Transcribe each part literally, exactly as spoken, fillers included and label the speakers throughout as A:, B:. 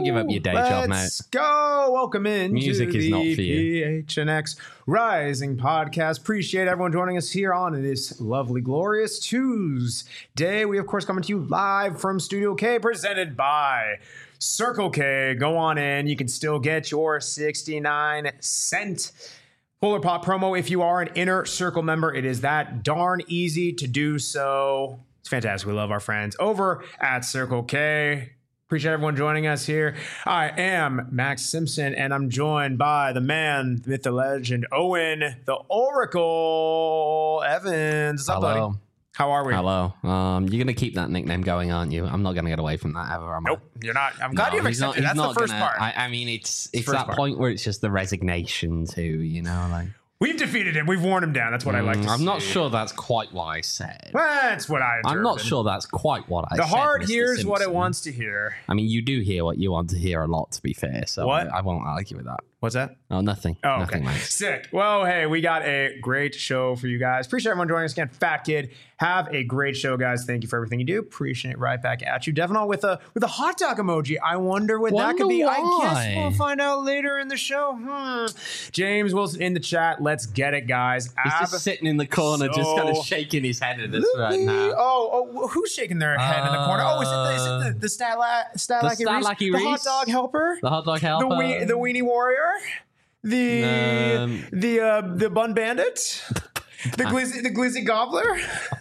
A: give up your day job, mate.
B: Let's go. Welcome in
A: Music
B: to
A: is
B: the
A: not for you.
B: P H N X Rising Podcast. Appreciate everyone joining us here on this lovely, glorious Tuesday. We, of course, coming to you live from Studio K, presented by Circle K. Go on in. You can still get your sixty-nine cent Polar Pop promo if you are an Inner Circle member. It is that darn easy to do so. It's fantastic. We love our friends over at Circle K. Appreciate everyone joining us here. I am Max Simpson, and I'm joined by the man, the myth, the legend, Owen, the Oracle, Evans. What's up,
A: Hello.
B: buddy? How are we?
A: Hello. Um, you're gonna keep that nickname going, aren't you? I'm not gonna get away from that ever. Am I?
B: Nope, you're not. I'm glad
A: No,
B: you've
A: he's not-
B: accepted.
A: he's
B: That's the
A: not
B: first
A: gonna-
B: part.
A: I, I mean, it's it's
B: First
A: that
B: part.
A: point where it's just the resignation too. You know, like
B: We've defeated him. We've worn him down. That's what I like to
A: Mm, I'm
B: see.
A: not sure that's quite what I said.
B: That's what I
A: I'm not
B: interpreted.
A: sure that's quite what I
B: The
A: said.
B: heart
A: Mister
B: hears what it
A: Simpson.
B: wants to hear.
A: I mean, you do hear what you want to hear a lot, to be fair. So
B: What?
A: I, I won't argue with that.
B: What's that?
A: Oh, nothing.
B: Oh,
A: nothing,
B: okay.
A: Max.
B: Sick. Well, hey, we got a great show for you guys. Appreciate everyone joining us again. Fat Kid, have a great show, guys. Thank you for everything you do. Appreciate it right back at you. Devon with a with a hot dog emoji. I wonder what that
A: Wonder
B: could be. I
A: why.
B: guess we'll find out later in the show. Hmm. James Wilson in the chat. Let's get it, guys.
A: He's
B: Ab-
A: just sitting in the corner, just kind
B: so-
A: of shaking his head at us right now.
B: Oh, oh, who's shaking their head in the corner? Oh, is it the, is it the, the Statla- Statlacky
A: The
B: Reese?
A: Statlacky
B: The hot
A: Reese?
B: dog helper?
A: The hot dog
B: The,
A: helper.
B: we- the Weenie Warrior? The
A: Um,
B: the uh, the Bun Bandit? The Glizzy the Glizzy Gobbler?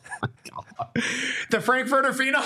B: The Frankfurter Phenom?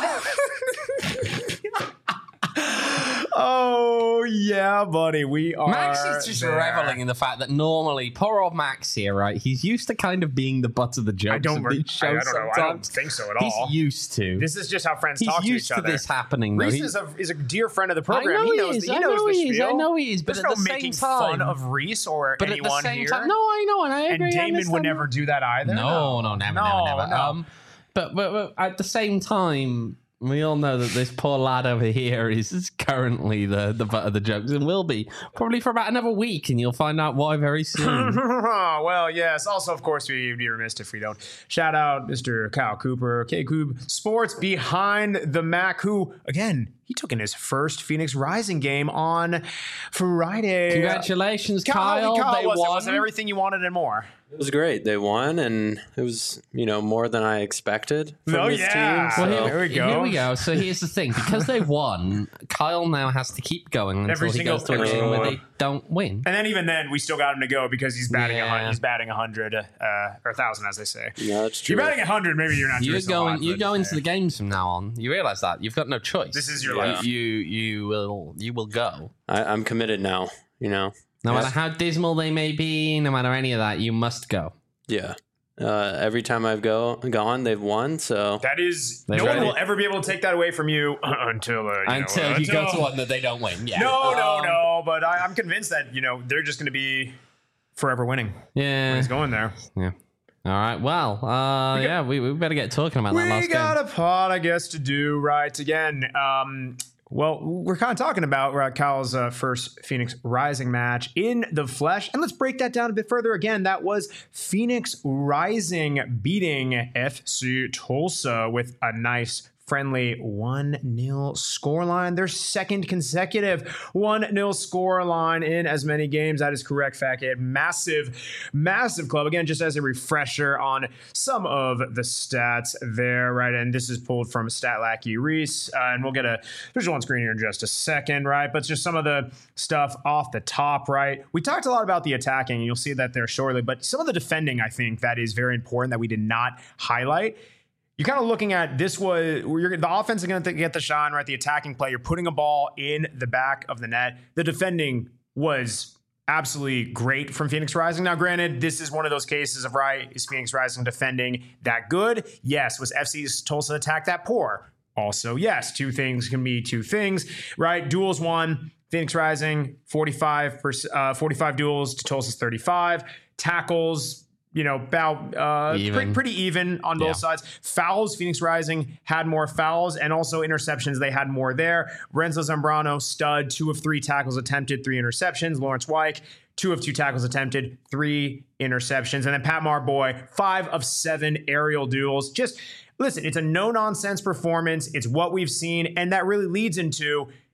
B: Oh yeah, buddy. We are
A: Max is just
B: there.
A: reveling in the fact that normally, poor old Max here, right? He's used to kind of being the butt of the jokes
B: I don't,
A: of
B: re-
A: these
B: I, I
A: shows
B: don't know. I don't
A: sometimes.
B: think so at
A: He's
B: all.
A: used to.
B: This is just how friends
A: He's
B: talk to
A: used
B: each
A: to
B: other.
A: this happening. Though.
B: Reese
A: He-
B: is a, is a dear friend of the
A: I
B: program.
A: know
B: he knows,
A: he is.
B: the, he
A: I
B: knows
A: know
B: the
A: he is.
B: spiel.
A: I know he is. But
B: There's
A: at
B: no
A: the same
B: making
A: time,
B: fun of Reese or
A: but
B: anyone
A: at the same
B: here.
A: time, no, I know, and I agree.
B: and
A: I
B: Damon would
A: understand
B: never
A: that.
B: do that either.
A: No, no, never,
B: no,
A: never, never.
B: no.
A: Um, but, but but at the same time, we all know that this poor lad over here is, is currently the, the butt of the jokes and will be probably for about another week, and you'll find out why very soon.
B: Well, yes. Also, of course, we'd be remiss if we don't shout out Mister Kyle Cooper, K-Cube Sports behind the Mac, who, again, he took in his first Phoenix Rising game on Friday.
A: Congratulations,
B: Kyle.
A: Kyle.
B: Kyle
A: They
B: was, it?
A: won.
B: was it everything you wanted and more?
C: It was great. They won, and it was, you know, more than I expected from
B: Oh,
C: this
B: yeah.
C: team.
B: Well,
C: So.
B: here we go.
A: Here we go. So here's the thing: because they won, Kyle now has to keep going until
B: Every
A: he
B: single-
A: goes to a
B: every
A: game
B: single
A: where
B: one.
A: they don't win.
B: And then even then, we still got him to go because he's batting a
A: Yeah.
B: hundred. He's batting a hundred, uh, or a thousand, as they say.
C: Yeah, that's true.
B: You're batting a hundred. Maybe you're not.
A: You're
B: doing so
A: going.
B: hot,
A: You
B: but,
A: go into
B: uh,
A: the games from now on. You realize that you've got no choice.
B: This is your
C: Yeah.
B: life.
A: You you will you will go.
C: I, I'm committed now. You know.
A: No
C: Yeah.
A: matter how dismal they may be, no matter any of that, you must go.
C: Yeah. Uh, every time I've go gone, they've won. So
B: That is,
A: They
B: no one
A: ready?
B: will ever be able to take that away from you until uh, you
A: Until
B: know,
A: you go
B: until-
A: to one that they don't win. Yeah.
B: No, no,
A: Um,
B: no. But I, I'm convinced that you know they're just going to be forever winning.
A: Yeah.
B: He's going there.
A: Yeah. All right. Well, uh, yeah, we, we better get talking about that
B: We
A: last
B: got
A: game.
B: a pod, I guess, to do right again. Um, well, we're kind of talking about uh, Kyle's uh, first Phoenix Rising match in the flesh, and let's break that down a bit further. Again, that was Phoenix Rising beating F C Tulsa with a nice friendly one nil scoreline. Their second consecutive one nil scoreline in as many games. That is correct, Fackhead. Massive, massive club. Again, just as a refresher on some of the stats there, right? And this is pulled from Statlacky Reese. Uh, and we'll get a visual on screen here in just a second, right? But just some of the stuff off the top, right? We talked a lot about the attacking, and you'll see that there shortly. But some of the defending, I think, that is very important that we did not highlight. You're kind of looking at this was you're, the offense is going to get the shine, right? The attacking play, you're putting a ball in the back of the net. The defending was absolutely great from Phoenix Rising. Now, granted, this is one of those cases of, right, is Phoenix Rising defending that good? Yes. Was F C's Tulsa attack that poor? Also, yes. Two things can be two things, right? Duels won. Phoenix Rising, forty-five, uh, forty-five duels to Tulsa's thirty-five. Tackles, you know, about uh,
A: Even.
B: Pretty, pretty even on both
A: Yeah.
B: sides. Fouls, Phoenix Rising had more fouls, and also interceptions, they had more there. Renzo Zambrano, stud, two of three tackles attempted, three interceptions. Lawrence Wyke, two of two tackles attempted, three interceptions. And then Pat Marboy, five of seven aerial duels. Just, listen, it's a no-nonsense performance. It's what we've seen, and that really leads into,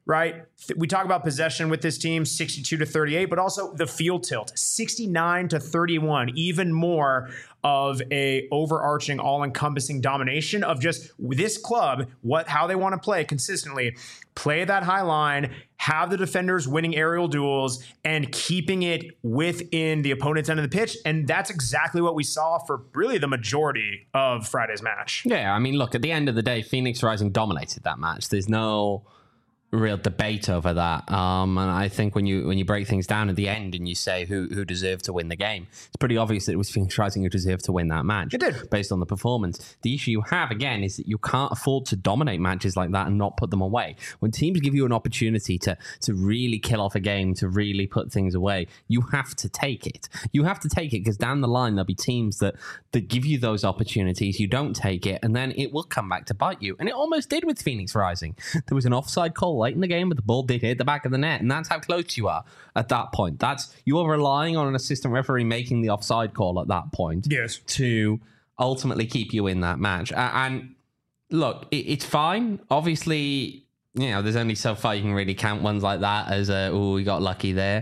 B: right? We talk about possession with this team, sixty-two to thirty-eight, but also the field tilt, sixty-nine to thirty-one, even more of a overarching, all-encompassing domination of just this club, what how they want to play consistently, play that high line, have the defenders winning aerial duels, and keeping it within the opponent's end of the pitch. And that's exactly what we saw for really the majority of Friday's match.
A: Yeah, I mean, look, at the end of the day, Phoenix Rising dominated that match. There's no real debate over that. Um, and I think when you when you break things down at the end and you say who who deserved to win the game, it's pretty obvious that it was Phoenix Rising who deserved to win that match.
B: It did.
A: Based on the performance. The issue you have, again, is that you can't afford to dominate matches like that and not put them away. When teams give you an opportunity to, to really kill off a game, to really put things away, you have to take it. You have to take it because down the line, there'll be teams that, that give you those opportunities. You don't take it, and then it will come back to bite you. And it almost did with Phoenix Rising. There was an offside call late in the game, but the ball did hit the back of the net, and that's how close you are at that point. That's you are relying on an assistant referee making the offside call at that point,
B: yes,
A: to ultimately keep you in that match. Uh, and look, it, it's fine. Obviously, you know, there's only so far you can really count ones like that as a oh, we got lucky there,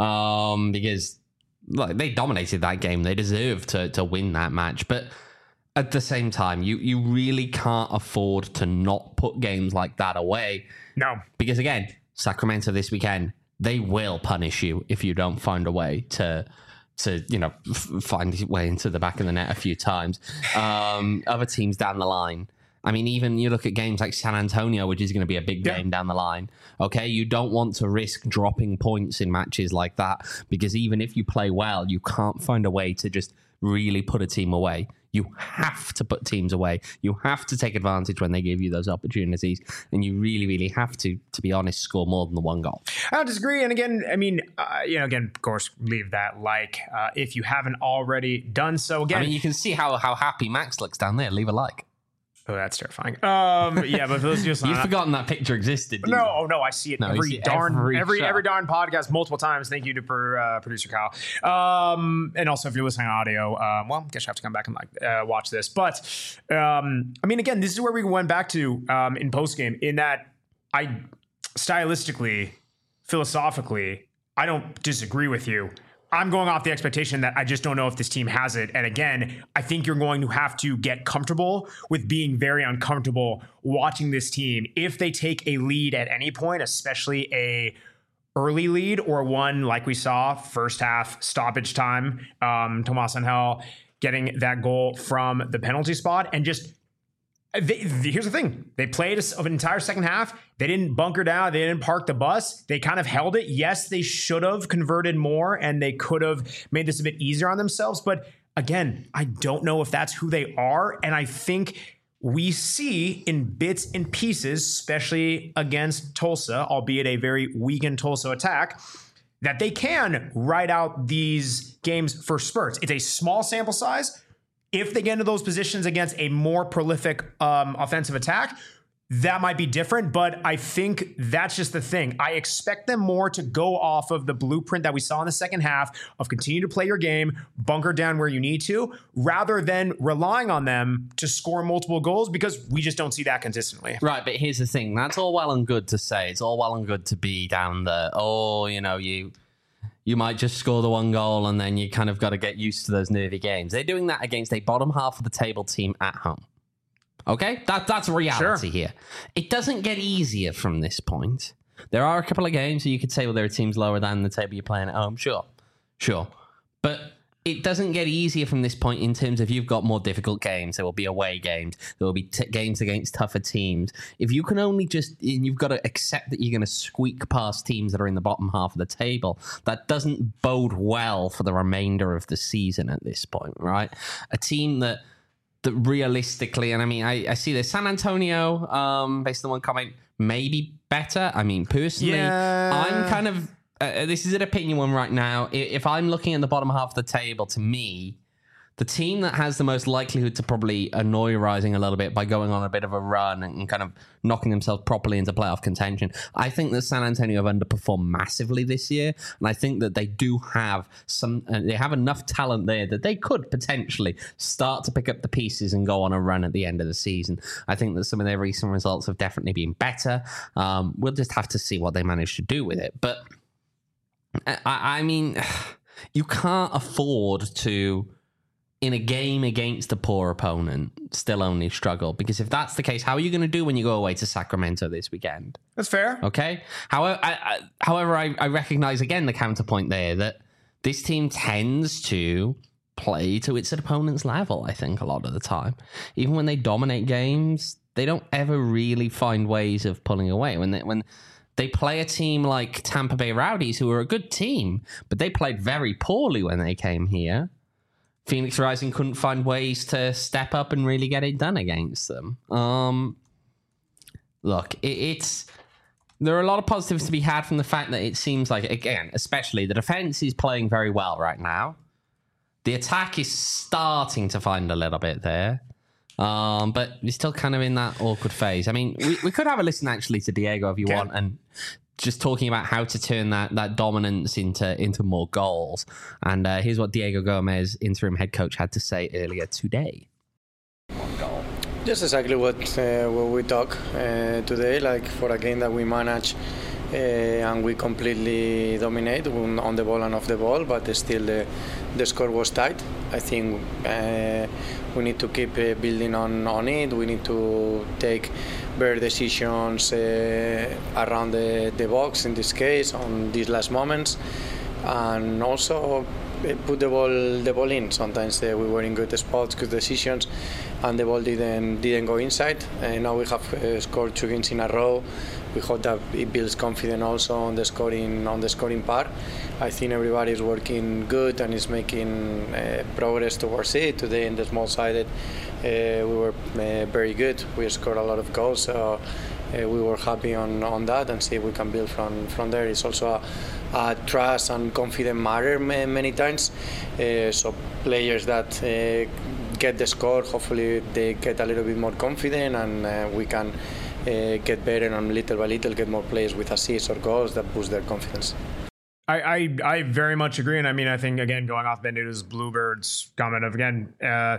A: um, because like they dominated that game. They deserve to to win that match, but at the same time, you you really can't afford to not put games like that away.
B: No.
A: Because again, Sacramento this weekend, they will punish you if you don't find a way to, to you know, f- find your way into the back of the net a few times. Um, other teams down the line. I mean, even you look at games like San Antonio, which is going to be a big
B: yeah.
A: game down the line. Okay, you don't want to risk dropping points in matches like that because even if you play well, you can't find a way to just really put a team away. You have to put teams away. You have to take advantage when they give you those opportunities. And you really, really have to, to be honest, score more than the one goal.
B: I don't disagree. And again, I mean, uh, you know, again, of course, leave that like uh, if you haven't already done so. Again,
A: I mean, you can see how, how happy Max looks down there. Leave a like.
B: Oh, that's terrifying. Um, yeah, but those just
A: you've forgotten that picture existed.
B: No, you? oh no, I see it no, every see darn every every, every darn podcast multiple times. Thank you to per, uh, producer Kyle. Um, and also if you're listening on audio, um, well, I guess you have to come back and like uh, watch this. But um, I mean, again, this is where we went back to um, in post game. In that, I stylistically, philosophically, I don't disagree with you. I'm going off the expectation that I just don't know if this team has it. And again, I think you're going to have to get comfortable with being very uncomfortable watching this team. If they take a lead at any point, especially a early lead or one like we saw first half stoppage time, um, Tomas Angel getting that goal from the penalty spot and just They, here's the thing. They played an entire second half. They didn't bunker down. They didn't park the bus. They kind of held it. Yes, they should have converted more and they could have made this a bit easier on themselves. But again, I don't know if that's who they are. And I think we see in bits and pieces, especially against Tulsa, albeit a very weakened Tulsa attack, that they can ride out these games for spurts. It's a small sample size. If they get into those positions against a more prolific um, offensive attack, that might be different. But I think that's just the thing. I expect them more to go off of the blueprint that we saw in the second half of continue to play your game, bunker down where you need to, rather than relying on them to score multiple goals because we just don't see that consistently.
A: Right, but here's the thing. That's all well and good to say. It's all well and good to be down the, oh, you know, you... You might just score the one goal and then you kind of got to get used to those nervy games. They're doing that against a bottom half of the table team at home. Okay? That, that's reality
B: sure.
A: here. It doesn't get easier from this point. There are a couple of games where you could say, well, there are teams lower than the table you're playing at home. Sure. Sure. But it doesn't get easier from this point in terms of you've got more difficult games. There will be away games. There will be t- games against tougher teams. If you can only just, and you've got to accept that you're going to squeak past teams that are in the bottom half of the table, that doesn't bode well for the remainder of the season at this point, right? A team that, that realistically, and I mean, I, I see this, San Antonio, um, based on one comment, maybe better. I mean, personally,
B: yeah.
A: I'm kind of, Uh, this is an opinion one right now. If I'm looking at the bottom half of the table, to me, the team that has the most likelihood to probably annoy Rising a little bit by going on a bit of a run and kind of knocking themselves properly into playoff contention. I think that San Antonio have underperformed massively this year, and I think that they do have some, uh, they have enough talent there that they could potentially start to pick up the pieces and go on a run at the end of the season. I think that some of their recent results have definitely been better. Um, we'll just have to see what they manage to do with it. But I, I mean, you can't afford to, in a game against a poor opponent, still only struggle. Because if that's the case, how are you going to do when you go away to Sacramento this weekend?
B: That's fair.
A: Okay. However, I, I, however, I, I recognize again the counterpoint there that this team tends to play to its opponent's level, I think, a lot of the time. Even when they dominate games, they don't ever really find ways of pulling away. When they, when they play a team like Tampa Bay Rowdies, who are a good team, but they played very poorly when they came here, Phoenix Rising couldn't find ways to step up and really get it done against them. Um, look, it, it's there are a lot of positives to be had from the fact that it seems like, again, especially the defense is playing very well right now. The attack is starting to find a little bit there. Um, but we're still kind of in that awkward phase. I mean, we, we could have a listen actually to Diego if you
B: okay.
A: want, and just talking about how to turn that that dominance into into more goals. And uh, here's what Diego Gomez, interim head coach, had to say earlier today.
D: Just exactly what uh, what we talk uh, today, like for a game that we manage uh, and we completely dominate on the ball and off the ball, but still the, the score was tight. I think uh, we need to keep uh, building on, on it. We need to take better decisions uh, around the, the box in this case, on these last moments, and also put the ball the ball in. Sometimes uh, we were in good spots, good decisions, and the ball didn't didn't go inside. And now we have uh, scored two games in a row. We hope that it builds confidence also on the scoring on the scoring part. I think everybody is working good and is making uh, progress towards it. Today in the small sided, uh, we were uh, very good. We scored a lot of goals, so uh, we were happy on, on that, and see if we can build from from there. It's also a, a trust and confidence matter many times. Uh, so players that uh, get the score, hopefully they get a little bit more confident, and uh, we can uh, get better and little by little get more players with assists or goals that boost their confidence.
B: I, I, I very much agree. And I mean, I think, again, going off Benito's Bluebirds comment of, again, uh,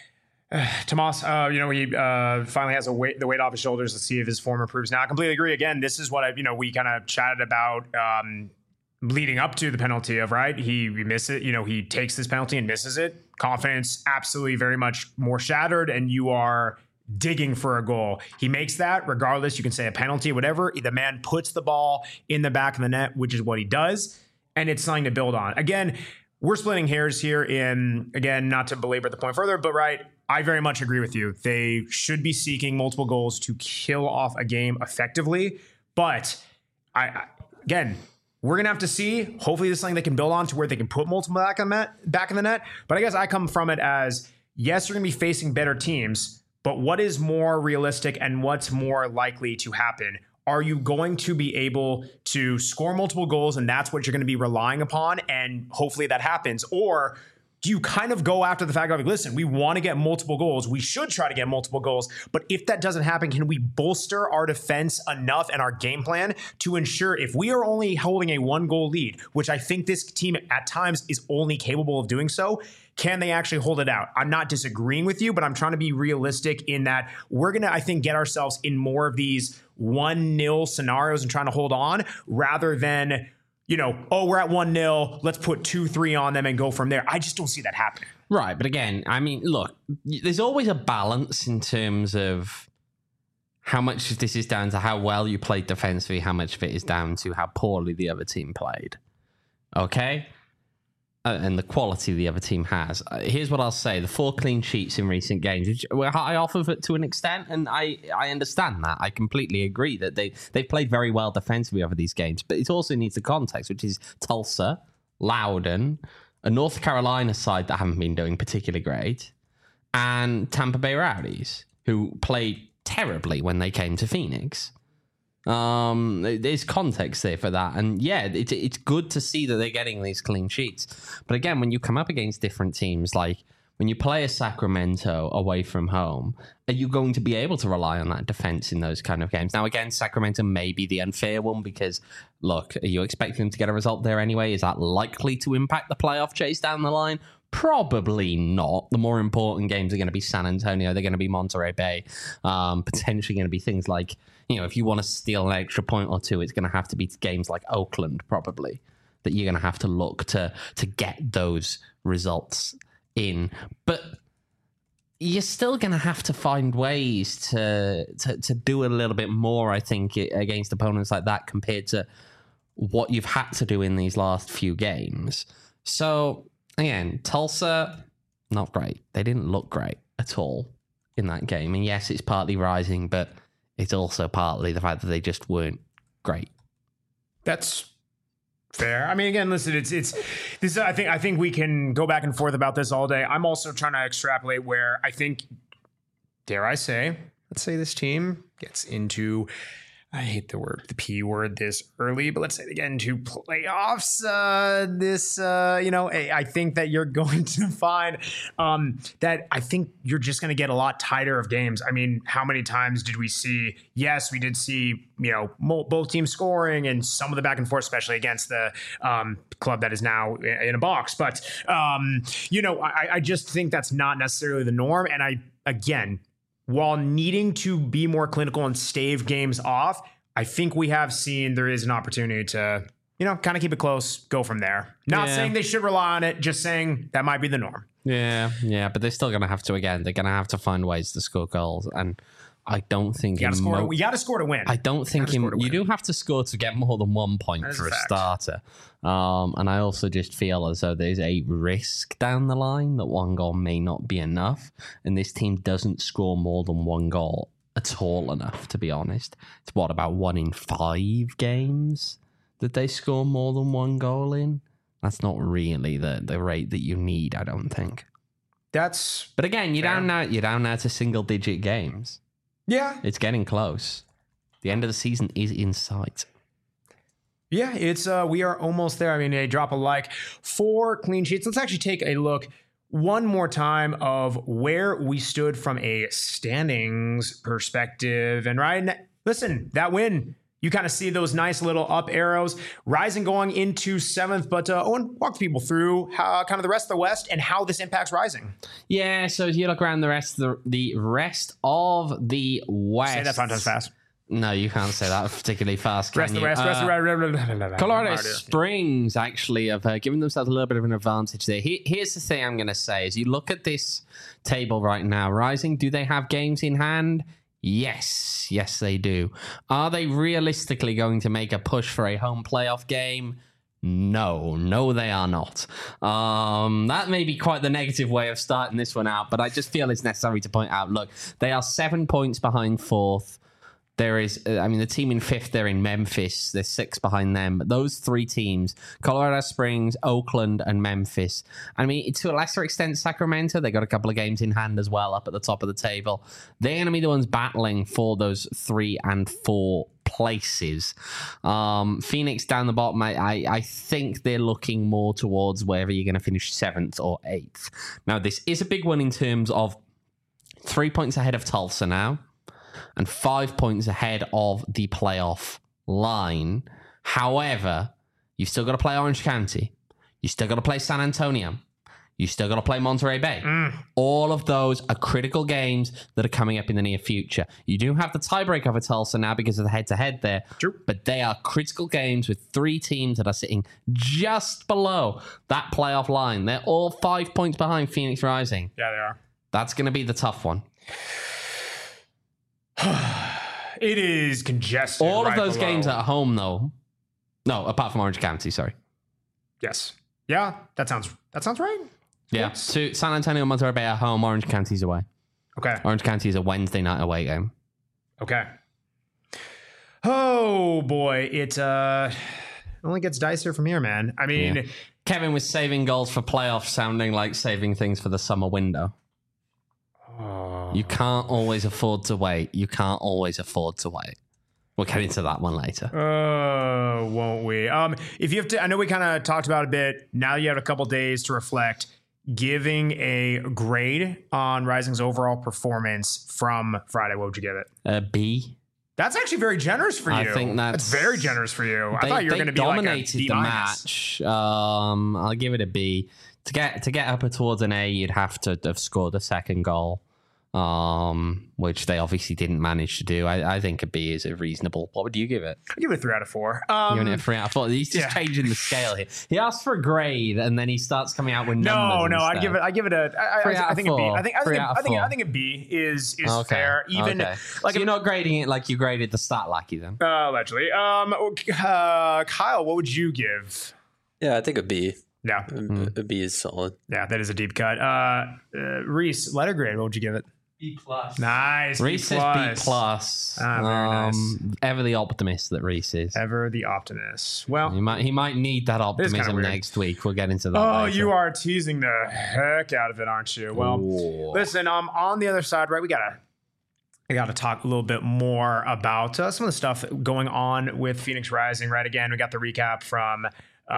B: uh, Tomas, uh, you know, he uh, finally has a weight, the weight off his shoulders to see if his form improves. Now, I completely agree. Again, this is what I, you know, we kind of chatted about um, leading up to the penalty of, right? He, he misses it. You know, he takes this penalty and misses it. Confidence absolutely very much more shattered, and you are digging for a goal. He makes that regardless. You can say a penalty, whatever. The man puts the ball in the back of the net, which is what he does. And it's something to build on. Again, we're splitting hairs here in, again, not to belabor the point further, but right, I very much agree with you. They should be seeking multiple goals to kill off a game effectively. But I, I again, we're going to have to see. Hopefully this is something they can build on to where they can put multiple back in, that, back in the net. But I guess I come from it as, yes, you're going to be facing better teams, but what is more realistic and what's more likely to happen? Are you going to be able to score multiple goals and that's what you're going to be relying upon, and hopefully that happens? Or do you kind of go after the fact of, like, listen, we want to get multiple goals. We should try to get multiple goals. But if that doesn't happen, can we bolster our defense enough and our game plan to ensure if we are only holding a one goal lead, which I think this team at times is only capable of doing so, can they actually hold it out? I'm not disagreeing with you, but I'm trying to be realistic in that we're going to, I think, get ourselves in more of these one nil scenarios and trying to hold on rather than, you know, oh, we're at one nil, let's put two three on them and go from there. I just don't see that happening.
A: Right. But again, I mean, look, there's always a balance in terms of how much of this is down to how well you played defensively, how much of it is down to how poorly the other team played. Okay? Uh, and the quality the other team has. Uh, here's what I'll say. The four clean sheets in recent games, which were high off of it to an extent, and I, I understand that. I completely agree that they, they've played very well defensively over these games, but it also needs the context, which is Tulsa, Loudoun, a North Carolina side that haven't been doing particularly great, and Tampa Bay Rowdies, who played terribly when they came to Phoenix. Um, there's context there for that. And yeah, it, it's good to see that they're getting these clean sheets. But again, when you come up against different teams, like when you play a Sacramento away from home, are you going to be able to rely on that defense in those kind of games? Now, again, Sacramento may be the unfair one because, look, are you expecting them to get a result there anyway? Is that likely to impact the playoff chase down the line? Probably not. The more important games are going to be San Antonio. They're going to be Monterey Bay. Um, potentially going to be things like, you know, if you want to steal an extra point or two, it's going to have to be games like Oakland, probably, that you're going to have to look to to get those results in. But you're still going to have to find ways to, to to do a little bit more, I think, against opponents like that compared to what you've had to do in these last few games. So, again, Tulsa, not great. They didn't look great at all in that game. And yes, it's partly Rising, but it's also partly the fact that they just weren't great.
B: That's fair. I mean, again, listen, it's it's this. I think I think we can go back and forth about this all day. I'm also trying to extrapolate where I think, dare I say, let's say this team gets into, I hate the word, the P word this early, but let's say they get into playoffs. Uh, this, uh, you know, I think that you're going to find um, that I think you're just going to get a lot tighter of games. I mean, how many times did we see? Yes, we did see, you know, both teams scoring and some of the back and forth, especially against the um, club that is now in a box. But, um, you know, I, I just think that's not necessarily the norm. And I, again, while needing to be more clinical and stave games off, I think we have seen there is an opportunity to, you know, kind of keep it close, go from there. Not
A: Yeah.
B: saying they should rely on it, just saying that might be the norm.
A: Yeah, yeah, but they're still going to have to, again, they're going to have to find ways to score goals. And I don't think...
B: You got to score,
A: mo-
B: we got to score to win.
A: I don't think
B: Gotta
A: in,
B: score to
A: you
B: win.
A: do have to score to get more than one point
B: That is
A: for
B: a
A: a
B: fact.
A: starter. Um, and I also just feel as though there's a risk down the line that one goal may not be enough. And this team doesn't score more than one goal at all enough, to be honest. It's what, about one in five games that they score more than one goal in? That's not really the, the rate that you need, I don't think.
B: That's,
A: But again, you're
B: Fair.
A: down now. You're down now to single digit games.
B: yeah.
A: It's getting close. The end of the season is in sight.
B: Yeah, it's uh we are almost there. I mean, a drop a like for clean sheets. Let's actually take a look one more time of where we stood from a standings perspective. And Ryan, listen, that win, you kind of see those nice little up arrows. Rising going into seventh, but uh, Owen, walk people through how, kind of the rest of the West and how this impacts Rising.
A: Yeah, so as you look around the rest of the, the rest of the West.
B: Say that five times fast.
A: No, you can't say that particularly fast, can
B: Rest of
A: you?
B: the West, rest of
A: Uh,
B: the West.
A: Colorado Springs actually have uh, given themselves a little bit of an advantage there. He, here's the thing I'm going to say. As you look at this table right now, Rising, do they have games in hand? Yes. Yes, they do. Are they realistically going to make a push for a home playoff game? No, no, they are not. Um, that may be quite the negative way of starting this one out, but I just feel it's necessary to point out, look, they are seven points behind fourth. There is, uh, I mean, the team in fifth, they're in Memphis. There's six behind them. But those three teams, Colorado Springs, Oakland, and Memphis. I mean, to a lesser extent, Sacramento, they got a couple of games in hand as well up at the top of the table. They're going to be the ones battling for those three and four places. Um, Phoenix down the bottom, I, I, I think they're looking more towards wherever you're going to finish seventh or eighth. Now, this is a big one in terms of three points ahead of Tulsa now, and five points ahead of the playoff line. However, you've still got to play Orange County. You still got to play San Antonio. You still got to play Monterey Bay.
B: Mm.
A: All of those are critical games that are coming up in the near future. You do have the tiebreak over Tulsa now because of the head-to-head there.
B: True.
A: But they are critical games with three teams that are sitting just below that playoff line. They're all five points behind Phoenix Rising.
B: Yeah, they are.
A: That's going to be the tough one.
B: It is congested.
A: All
B: right
A: of those
B: below.
A: games at home, though. No, apart from Orange County, sorry.
B: Yes. Yeah, that sounds that sounds right.
A: Yeah.
B: Yes.
A: So San Antonio and Monterey Bay at home, Orange County's away.
B: Okay.
A: Orange County is a Wednesday night away game.
B: Okay. Oh boy, it uh only gets dicier from here, man. I mean,
A: Yeah. Kevin was saving goals for playoffs, sounding like saving things for the summer window.
B: oh,
A: You can't always afford to wait. You can't always afford to wait. We'll get into that one later.
B: uh, won't we? Um, if you have to, I know we kind of talked about it a bit. Now you have a couple days to reflect. giving a grade on Rising's overall performance from Friday, what would you give it?
A: A B.
B: That's actually very generous for you.
A: I think that's,
B: that's very generous for you.
A: They,
B: I thought you were going to be like a
A: dominated
B: D
A: the
B: minus.
A: match. Um, I'll give it a B. To get to get up towards an A, you'd have to have scored a second goal, um, which they obviously didn't manage to do. I, I think a B is a reasonable. What would you give it?
B: I'd give it a three out of four. Um,
A: Giving it a three out of four. He's just
B: yeah.
A: changing the scale here. He asks for a grade, and then he starts coming out with numbers.
B: No, no,
A: instead.
B: I give it. I give it a. I,
A: Three
B: I,
A: out
B: I
A: of
B: think a B.
A: four.
B: I think. I
A: Three
B: think.
A: out
B: A,
A: of
B: I think.
A: four.
B: I think a B is is
A: Okay.
B: fair. Even
A: okay.
B: like
A: so you're not grading it like you graded the stat lackey then.
B: uh, allegedly. Um, uh, Kyle, what would you give?
C: Yeah, I think a B.
B: Yeah,
C: A, a B is solid.
B: yeah, that is a deep cut. Uh, uh Reese, letter grade. What would you give it?
E: B plus.
B: Nice.
A: Reese
B: B
A: says B
B: plus.
A: plus.
B: Ah, very
A: um, Ever the optimist that Reese is.
B: Ever the optimist. Well,
A: He might he might need that
B: kinda
A: optimism
B: weird.
A: next week. We'll get into that.
B: oh,
A: later.
B: you are teasing the heck out of it, aren't you? Well,
A: Ooh.
B: listen. Um, on the other side, right? We gotta. I got to talk a little bit more about uh, some of the stuff going on with Phoenix Rising. Right, again, we got the recap from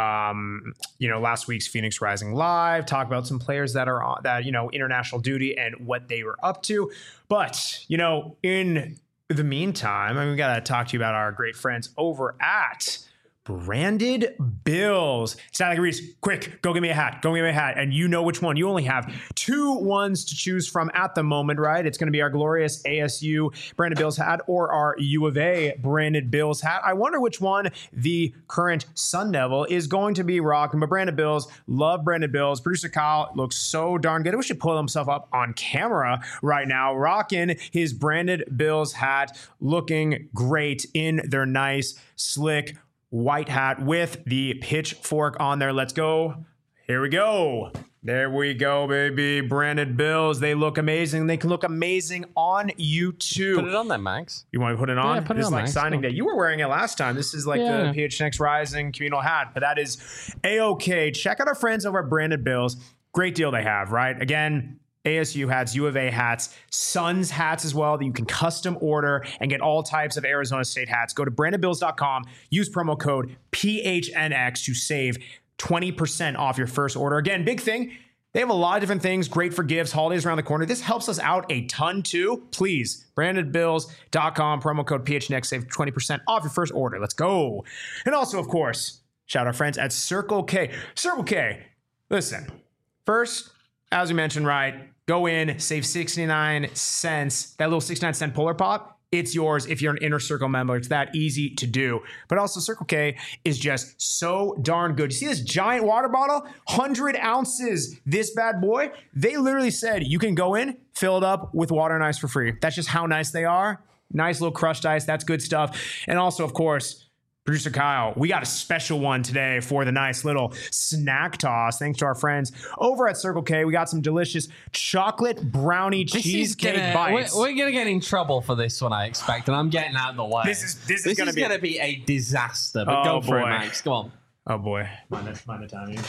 B: um, you know last week's Phoenix Rising Live. Talk about some players that are on that you know international duty and what they were up to. But you know, in the meantime, I mean, we got to talk to you about our great friends over at Branded Bills. Static Reese, quick, go get me a hat. Go get me a hat. And you know which one. You only have two ones to choose from at the moment, right? It's going to be our glorious A S U Branded Bills hat or our U of A Branded Bills hat. I wonder which one the current Sun Devil is going to be rocking. But Branded Bills, love Branded Bills. Producer Kyle looks so darn good. I wish he'd pull himself up on camera right now, rocking his Branded Bills hat, looking great in their nice, slick, white hat with the pitchfork on there. Let's go. Here we go. There we go, baby. Branded Bills. They look amazing. They can look amazing on YouTube.
A: Put it on there, Max.
B: You want to put it on?
A: Yeah, put it
B: this
A: on,
B: is like
A: Max.
B: signing
A: Go.
B: day. You were wearing it last time. This is like
A: Yeah.
B: the P H N X Rising communal hat, but that is A-okay. Check out our friends over at Branded Bills. Great deal they have, right? Again, A S U hats, U of A hats, Suns hats as well that you can custom order and get all types of Arizona State hats. Go to branded bills dot com, use promo code P H N X to save twenty percent off your first order. Again, big thing, they have a lot of different things, great for gifts, holidays around the corner. This helps us out a ton too. Please, branded bills dot com, promo code P H N X, save twenty percent off your first order. Let's go. And also, of course, shout out our friends at Circle K. Circle K, listen, first, as we mentioned, right, go in, save sixty-nine cents. That little sixty-nine cent Polar Pop, it's yours if you're an Inner Circle member. It's that easy to do. But also, Circle K is just so darn good. You see this giant water bottle? one hundred ounces. This bad boy, they literally said you can go in, fill it up with water and ice for free. That's just how nice they are. Nice little crushed ice. That's good stuff. And also, of course, Producer Kyle, we got a special one today for the nice little snack toss. Thanks to our friends over at Circle K. We got some delicious chocolate brownie
A: This is
B: cheesecake
A: gonna,
B: bites.
A: We're, we're gonna get in trouble for this one, I expect, and I'm getting out of the way.
B: This is- this is gonna be-
A: gonna be a disaster. But
B: Oh,
A: go for
B: boy.
A: it, Max. Come on.
B: Oh boy, mind the, mind the timing.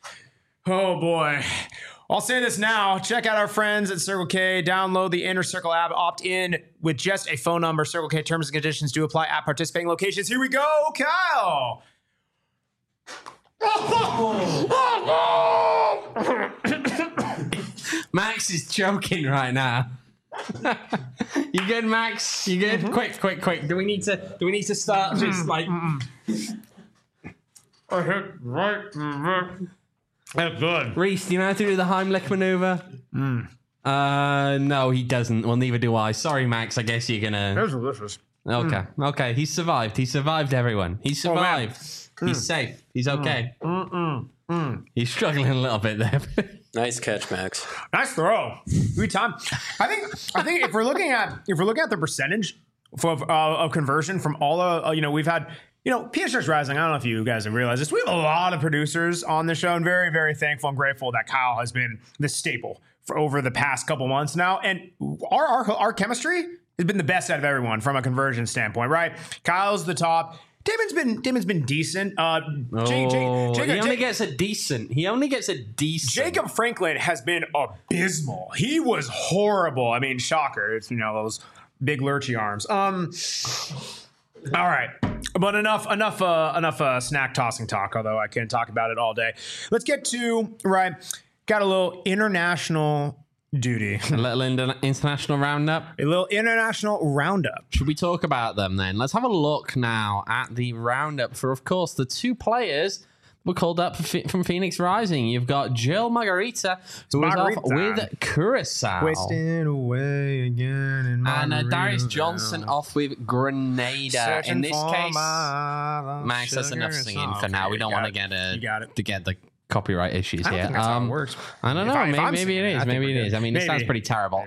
B: Oh boy. I'll say this now. Check out our friends at Circle K. Download the Inner Circle app. Opt in with just a phone number. Circle K terms and conditions do apply at participating locations. Here we go, Kyle.
A: Max is choking right now. You good, Max? You good? Quick, quick, quick. Do we need to? Do we need to start just like?
B: I hit right. That's good.
A: Reese, do you know how to do the Heimlich maneuver? Uh, no, he doesn't. Well, neither do I. Sorry, Max. I guess you're gonna.
B: That's delicious.
A: Okay, okay. He survived. He survived. Everyone. He
B: Oh, man.
A: survived. He's safe. He's okay. He's struggling a little bit there.
C: Nice catch, Max.
B: Nice throw. Good time. I think. I think if we're looking at if we're looking at the percentage of, uh, of conversion from all of uh, you know we've had you know P H N X Rising. I don't know if you guys have realized this. We have a lot of producers on the show, and very very thankful and grateful that Kyle has been the staple for over the past couple months now, and our our, our chemistry has been the best out of everyone from a conversion standpoint. Right? Kyle's the top. Damon's been Damon's been decent. Uh, Jake, Jake,
A: Oh,
B: Jake,
A: he only
B: Jake,
A: gets a decent. He only gets a decent.
B: Jacob Franklin has been abysmal. He was horrible. I mean, shocker. It's, you know, those big lurchy arms. Um. All right, but enough, enough, uh, enough uh, snack tossing talk. Although I can talk about it all day. Let's get to right. got a little international duty.
A: A little inter- international roundup.
B: A little international roundup.
A: Should we talk about them then? Let's have a look now at the roundup for, of course, the two players were called up from Phoenix Rising. You've got Jill Margarita, who
B: Margarita.
A: was off with Curacao.
B: Wasting away again in
A: And uh, Darius
B: Margaritaville.
A: Johnson off with Grenada.
B: Searching
A: In this
B: for
A: case,
B: my
A: Max, that's
B: sugar
A: enough
B: and
A: singing
B: salt.
A: for now.
B: Okay,
A: We don't
B: you
A: want to
B: got
A: get
B: it. You got
A: a,
B: it.
A: to get the copyright issues
B: I don't
A: here.
B: think that's how
A: Um,
B: it works.
A: I don't
B: If
A: know.
B: I- if
A: maybe
B: I'm
A: maybe
B: singing
A: it
B: it, I
A: is.
B: think
A: Maybe
B: we're
A: it is.
B: good.
A: I mean, it
B: Maybe.
A: sounds pretty terrible.
B: Maybe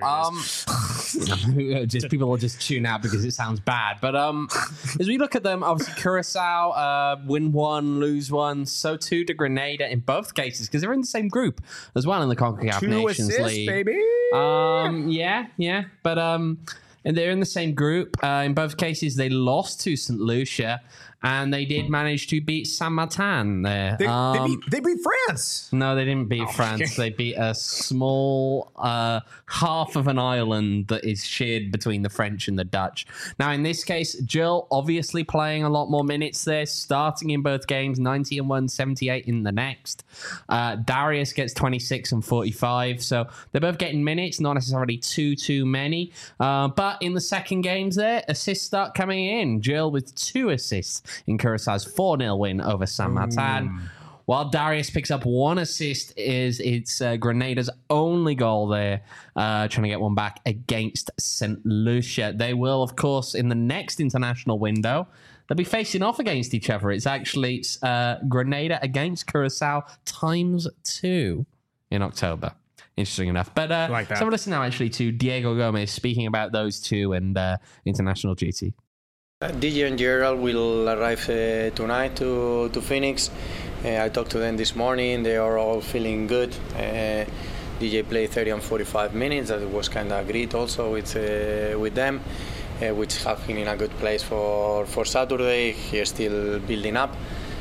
B: it
A: Um, just people will just tune out because it sounds bad. But um, as we look at them, obviously Curacao uh, win one, lose one. So too to Grenada in both cases because they're in the same group as well in the CONCACAF
B: Two
A: Nations
B: assists,
A: League.
B: baby.
A: Um, yeah, yeah, but um, and they're in the same group. Uh, in both cases, they lost to Saint Lucia, and they did manage to beat Saint Martin there.
B: They,
A: um,
B: they, beat, they beat France.
A: no, they didn't beat France.
B: okay.
A: They beat a small uh, half of an island that is shared between the French and the Dutch. Now, in this case, Jill obviously playing a lot more minutes there, starting in both games, ninety and one, seventy-eight in the next. Uh, Darius gets twenty-six and forty-five, so they're both getting minutes, not necessarily too, too many. Uh, but in the second games there, assists start coming in. Jill with two assists in Curaçao's four nil win over Saint Martin. While Darius picks up one assist, is it's uh, Grenada's only goal there, uh, trying to get one back against Saint Lucia. They will, of course, in the next international window, they'll be facing off against each other. It's actually uh, Grenada against Curacao times two in October. Interesting enough. But uh,
B: Like that.
A: let's have a listen now, actually, to Diego Gomez speaking about those two and uh, international duty.
D: Uh, D J and Gerald will arrive uh, tonight to, to Phoenix. Uh, I talked to them this morning. They are all feeling good. Uh, D J played thirty and forty-five minutes. That was kind of agreed also with uh, with them, uh, which have been in a good place for, for Saturday. He is still building up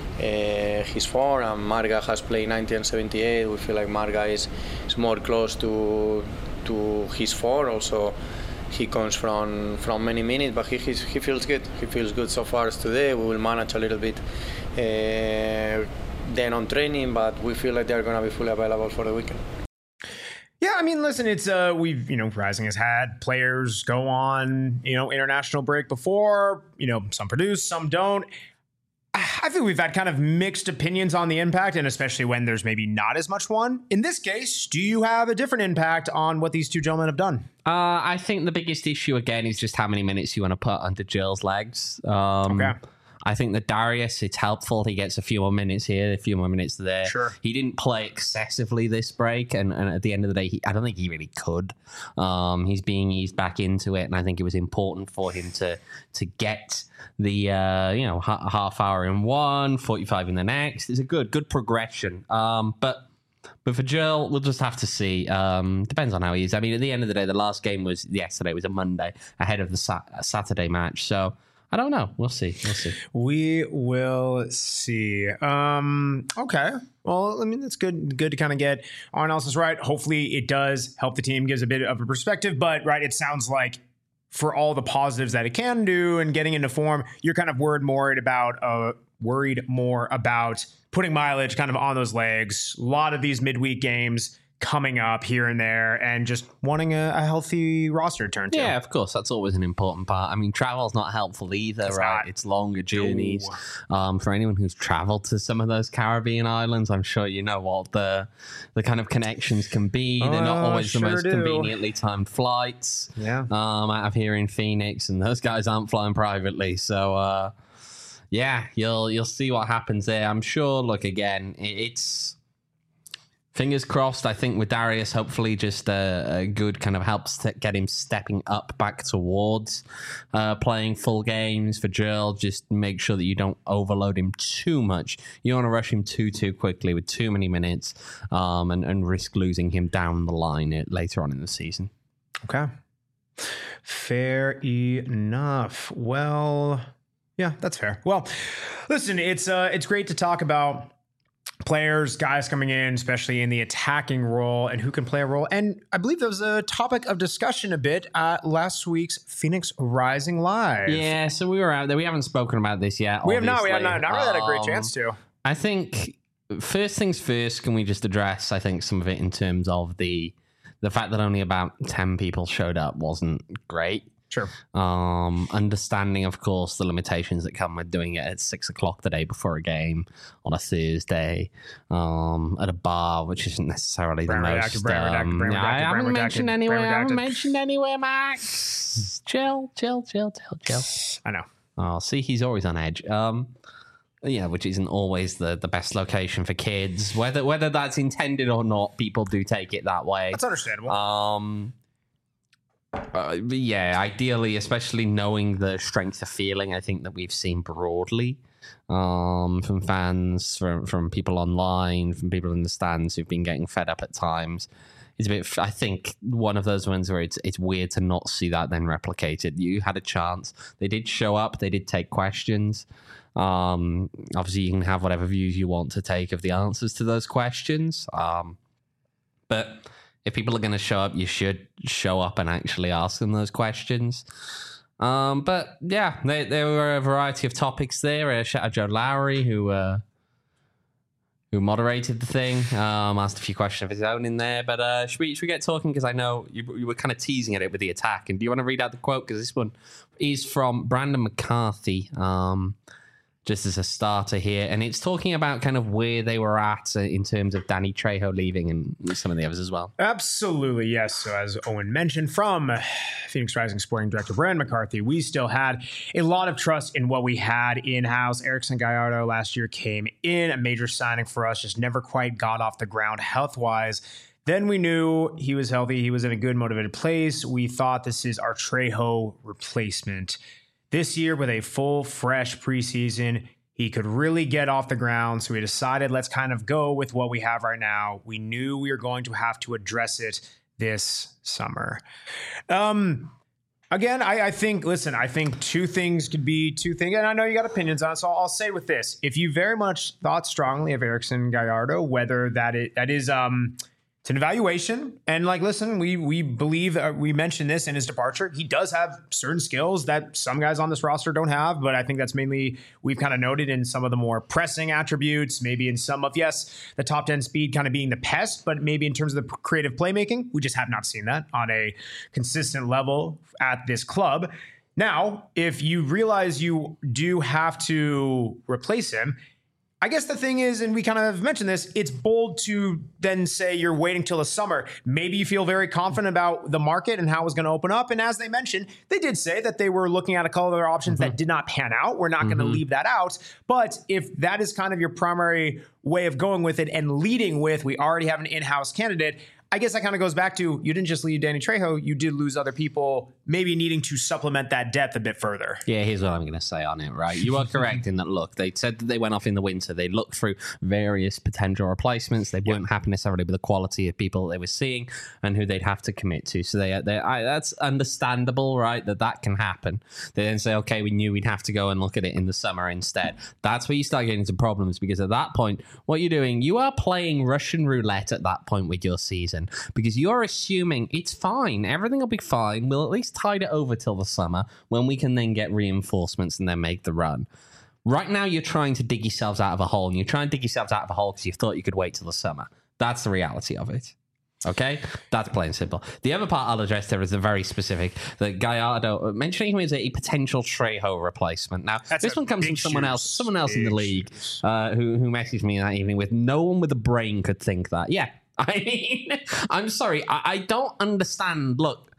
D: uh, his form, and Marga has played ninety and seventy-eight. We feel like Marga is, is more close to to his form. Also, he comes from, from many minutes, but he he's, he feels good. He feels good so far as today. We will manage a little bit uh, then on training, but we feel like they're going to be fully available for the weekend.
B: Yeah, I mean, listen, it's uh, we've you know, Rising has had players go on you know international break before. You know, some produce, some don't. I think we've had kind of mixed opinions on the impact, and especially when there's maybe not as much one. In this case, do you have a different impact on what these two gentlemen have done?
A: Uh, I think the biggest issue, again, is just how many minutes you want to put under Jill's legs. Um,
B: Okay.
A: I think that Darius, it's helpful. He gets a few more minutes here, a few more minutes there.
B: Sure.
A: He didn't play excessively this break, and, and at the end of the day, he, I don't think he really could. Um, he's being eased back into it, and I think it was important for him to to get the uh, you know ha- half hour in one, forty-five in the next. It's a good good progression. Um, but But for Jill, we'll just have to see. Um, depends on how he is. I mean, at the end of the day, the last game was yesterday. It was a Monday ahead of the sa- Saturday match. So I don't know. We'll see. We'll see.
B: We will see. Um, okay. Well, I mean, that's good. Good to kind of get our analysis right. Hopefully, it does help the team, gives a bit of a perspective. But right, it sounds like for all the positives that it can do and getting into form, you're kind of worried more about uh, worried more about putting mileage kind of on those legs. A lot of these midweek games coming up here and there, and just wanting a, a healthy roster to turn to.
A: Yeah, of course. That's always an important part. I mean, travel's not helpful either,
B: It's
A: right?
B: not.
A: It's longer journeys. Um, for anyone who's traveled to some of those Caribbean islands, I'm sure you know what the the kind of connections can be. They're not
B: Uh,
A: always
B: sure
A: the most
B: do.
A: conveniently timed flights.
B: Yeah.
A: Um, out of here in Phoenix, and those guys aren't flying privately. So, uh, yeah, you'll you'll see what happens there. I'm sure. Look, again, it, it's. Fingers crossed. I think with Darius, hopefully just a, a good kind of helps to get him stepping up back towards uh, playing full games. For Jill, just make sure that you don't overload him too much. You don't want to rush him too, too quickly with too many minutes um, and, and risk losing him down the line it, later on in the season.
B: Okay. Fair enough. Well, yeah, that's fair. Well, listen, it's uh, it's great to talk about players, guys coming in, especially in the attacking role, and who can play a role. And I believe there was a topic of discussion a bit at last week's Phoenix Rising Live.
A: Yeah, so we were out there. We haven't spoken about this yet.
B: We have not. We have
A: obviously.
B: not. Not really had a great
A: Um,
B: chance to.
A: I think first things first, can we just address, I think, some of it in terms of the the fact that only about ten people showed up wasn't great.
B: Sure.
A: Um, understanding, of course, the limitations that come with doing it at six o'clock the day before a game on a Thursday um, at a bar, which isn't necessarily
B: Brand
A: the
B: redacted,
A: most.
B: brand redacted,
A: Um,
B: brand
A: yeah,
B: redacted,
A: I haven't
B: brand
A: mentioned
B: redacted,
A: anywhere.
B: brand
A: I haven't
B: redacted.
A: mentioned anywhere, Max. chill, chill, chill, chill, chill.
B: I know.
A: Oh, see, he's always on edge. Um, yeah, which isn't always the, the best location for kids. Whether whether that's intended or not, people do take it that way.
B: That's understandable.
A: Um, uh, yeah, ideally, especially knowing the strength of feeling, I think that we've seen broadly um, from fans, from from people online, from people in the stands who've been getting fed up at times. It's a bit. I think one of those ones where it's it's weird to not see that then replicated. You had a chance. They did show up. They did take questions. Um, obviously, you can have whatever views you want to take of the answers to those questions. Um, but if people are going to show up, you should show up and actually ask them those questions. Um, but yeah, there, there were a variety of topics there. Uh, shout out Joe Lowry, who uh, who moderated the thing, um, asked a few questions of his own in there. But uh, should we should we get talking? Because I know you, you were kind of teasing at it with the attack. And do you want to read out the quote? Because this one is from Brandon McCarthy. Um, just as a starter here. And it's talking about kind of where they were at uh, in terms of Danny Trejo leaving and some of the others as well.
B: Absolutely, yes. So as Owen mentioned, from Phoenix Rising Sporting Director Brandon McCarthy, we still had a lot of trust in what we had in-house. Erickson Gallardo last year came in, a major signing for us, just never quite got off the ground health-wise. Then we knew he was healthy. He was in a good, motivated place. We thought this is our Trejo replacement. This year, with a full, fresh preseason, he could really get off the ground. So we decided, let's kind of go with what we have right now. We knew we were going to have to address it this summer. Um, again, I, I think, listen, I think two things could be two things. And I know you got opinions on it, so I'll, I'll say with this. If you very much thought strongly of Erickson Gallardo, whether that it, that is... um. It's an evaluation. And like, listen, we we believe, uh, we mentioned this in his departure. He does have certain skills that some guys on this roster don't have, but I think that's mainly, we've kind of noted in some of the more pressing attributes, maybe in some of, yes, the top ten speed kind of being the pest, but maybe in terms of the creative playmaking, we just have not seen that on a consistent level at this club. Now, if you realize you do have to replace him, I guess the thing is, and we kind of mentioned this, it's bold to then say you're waiting till the summer. Maybe you feel very confident about the market and how it's going to open up. And as they mentioned, they did say that they were looking at a couple of other options mm-hmm. that did not pan out. We're not mm-hmm. going to leave that out. But if that is kind of your primary way of going with it and leading with, we already have an in-house candidate, I guess that kind of goes back to, you didn't just leave Danny Trejo, you did lose other people, maybe needing to supplement that depth a bit further.
A: Yeah, here's what I'm going to say on it, right? You are correct in that, look, they said that they went off in the winter. They looked through various potential replacements. They weren't yep. happy necessarily with the quality of people they were seeing and who they'd have to commit to. So they, they I, that's understandable, right, that that can happen. They then say, okay, we knew we'd have to go and look at it in the summer instead. That's where you start getting into problems, because at that point, what you're doing, you are playing Russian roulette at that point with your season. Because you're assuming it's fine, everything will be fine, we'll at least tide it over till the summer when we can then get reinforcements and then make the run. Right now you're trying to dig yourselves out of a hole, and you're trying to dig yourselves out of a hole because you thought you could wait till the summer. That's the reality of it. Okay? That's plain simple. The other part I'll address there is a very specific, that Gallardo, mentioning him as a potential Trejo replacement. Now,
B: That's
A: this one comes from someone
B: shoes.
A: else, someone else
B: big
A: in the league uh, who, who messaged me that evening with, no one with a brain could think that. Yeah. I mean, I'm sorry, I, I don't understand. Look,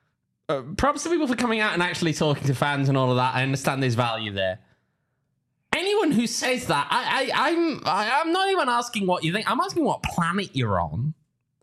A: uh, props to people for coming out and actually talking to fans and all of that. I understand there's value there. Anyone who says that, I, I, I'm, I, I'm not even asking what you think. I'm asking what planet you're on.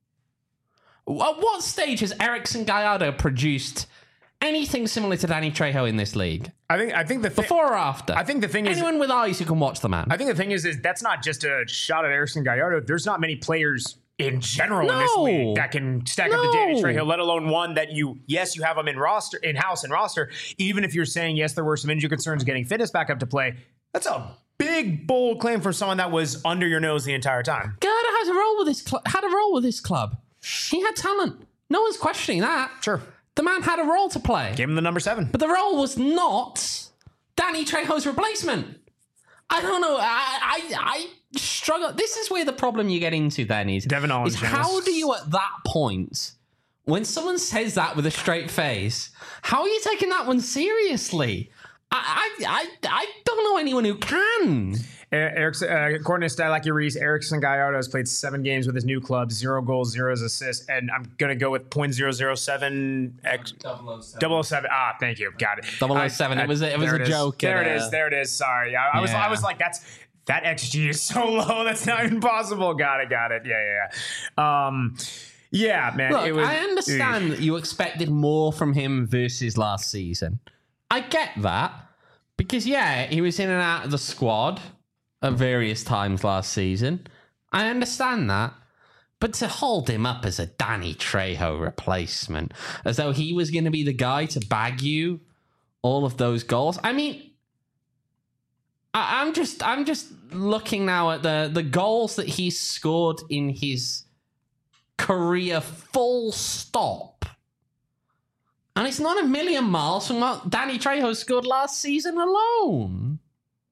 A: At what stage has Erickson Gallardo produced anything similar to Danny Trejo in this league?
B: I think I think the thi-
A: before or after.
B: I think the thing
A: Anyone
B: is,
A: anyone with eyes who can watch the man.
B: I think the thing is, is that's not just a shot at Erickson Gallardo. There's not many players in general
A: no.
B: in this league that can stack
A: no.
B: up the Danny Trejo, let alone one that you, yes, you have him in roster, in house and roster. Even if you're saying, yes, there were some injury concerns getting fitness back up to play, that's a big, bold claim from someone that was under your nose the entire time.
A: Gallardo had a role with this cl- had a role with this club. He had talent. No one's questioning that.
B: Sure.
A: The man had a role to play.
B: Gave him the number seven.
A: But the role was not Danny Trejo's replacement. I don't know. I, I I struggle. This is where the problem you get into then is,
B: Devin Owens,
A: is how
B: Genesis.
A: do you at that point, when someone says that with a straight face, how are you taking that one seriously? I I I, I don't know anyone who can.
B: Erickson, uh, according to Statlacky Reese, Erickson Gallardo has played seven games with his new club, zero goals, zero assists, and I'm gonna go with point zero zero seven x double oh seven. Ah, thank you, got it.
A: double oh seven.
B: I,
A: it was a, it was
B: there
A: a
B: it
A: joke.
B: There
A: at,
B: it
A: uh,
B: is. There it is. Sorry, I, I was
A: yeah.
B: I was like, that's that X G is so low. That's not even possible. Got it. Got it. Yeah, yeah, yeah. Um, yeah, man.
A: Look,
B: it was,
A: I understand that you expected more from him versus last season. I get that because yeah, he was in and out of the squad at various times last season. I understand that. But to hold him up as a Danny Trejo replacement, as though he was going to be the guy to bag you all of those goals. I mean, I, I'm just I'm just looking now at the, the goals that he scored in his career full stop. And it's not a million miles from what Danny Trejo scored last season alone.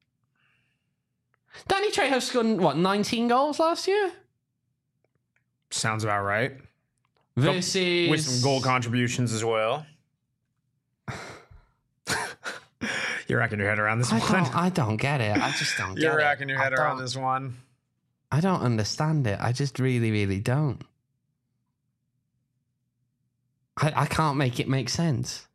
A: Danny Trejo scored, what, nineteen goals last year?
B: sounds about right.
A: Versus...
B: With some goal contributions as well. You're racking your head around this
A: I
B: one.
A: don't, I don't get it. I just don't get
B: You're
A: it.
B: racking your head
A: I
B: around
A: don't-
B: this one.
A: I don't understand it. I just really, really don't. I, I can't make it make sense.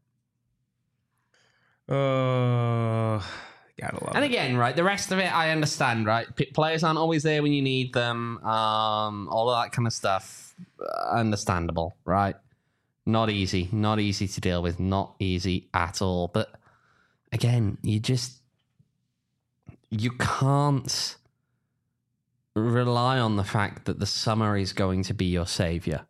B: Uh, gotta love
A: And
B: it.
A: again, right, the rest of it, I understand, right? P- players aren't always there when you need them. Um, all of that kind of stuff, uh, understandable, right? Not easy. Not easy to deal with. Not easy at all. But again, you just... You can't rely on the fact that the summer is going to be your savior.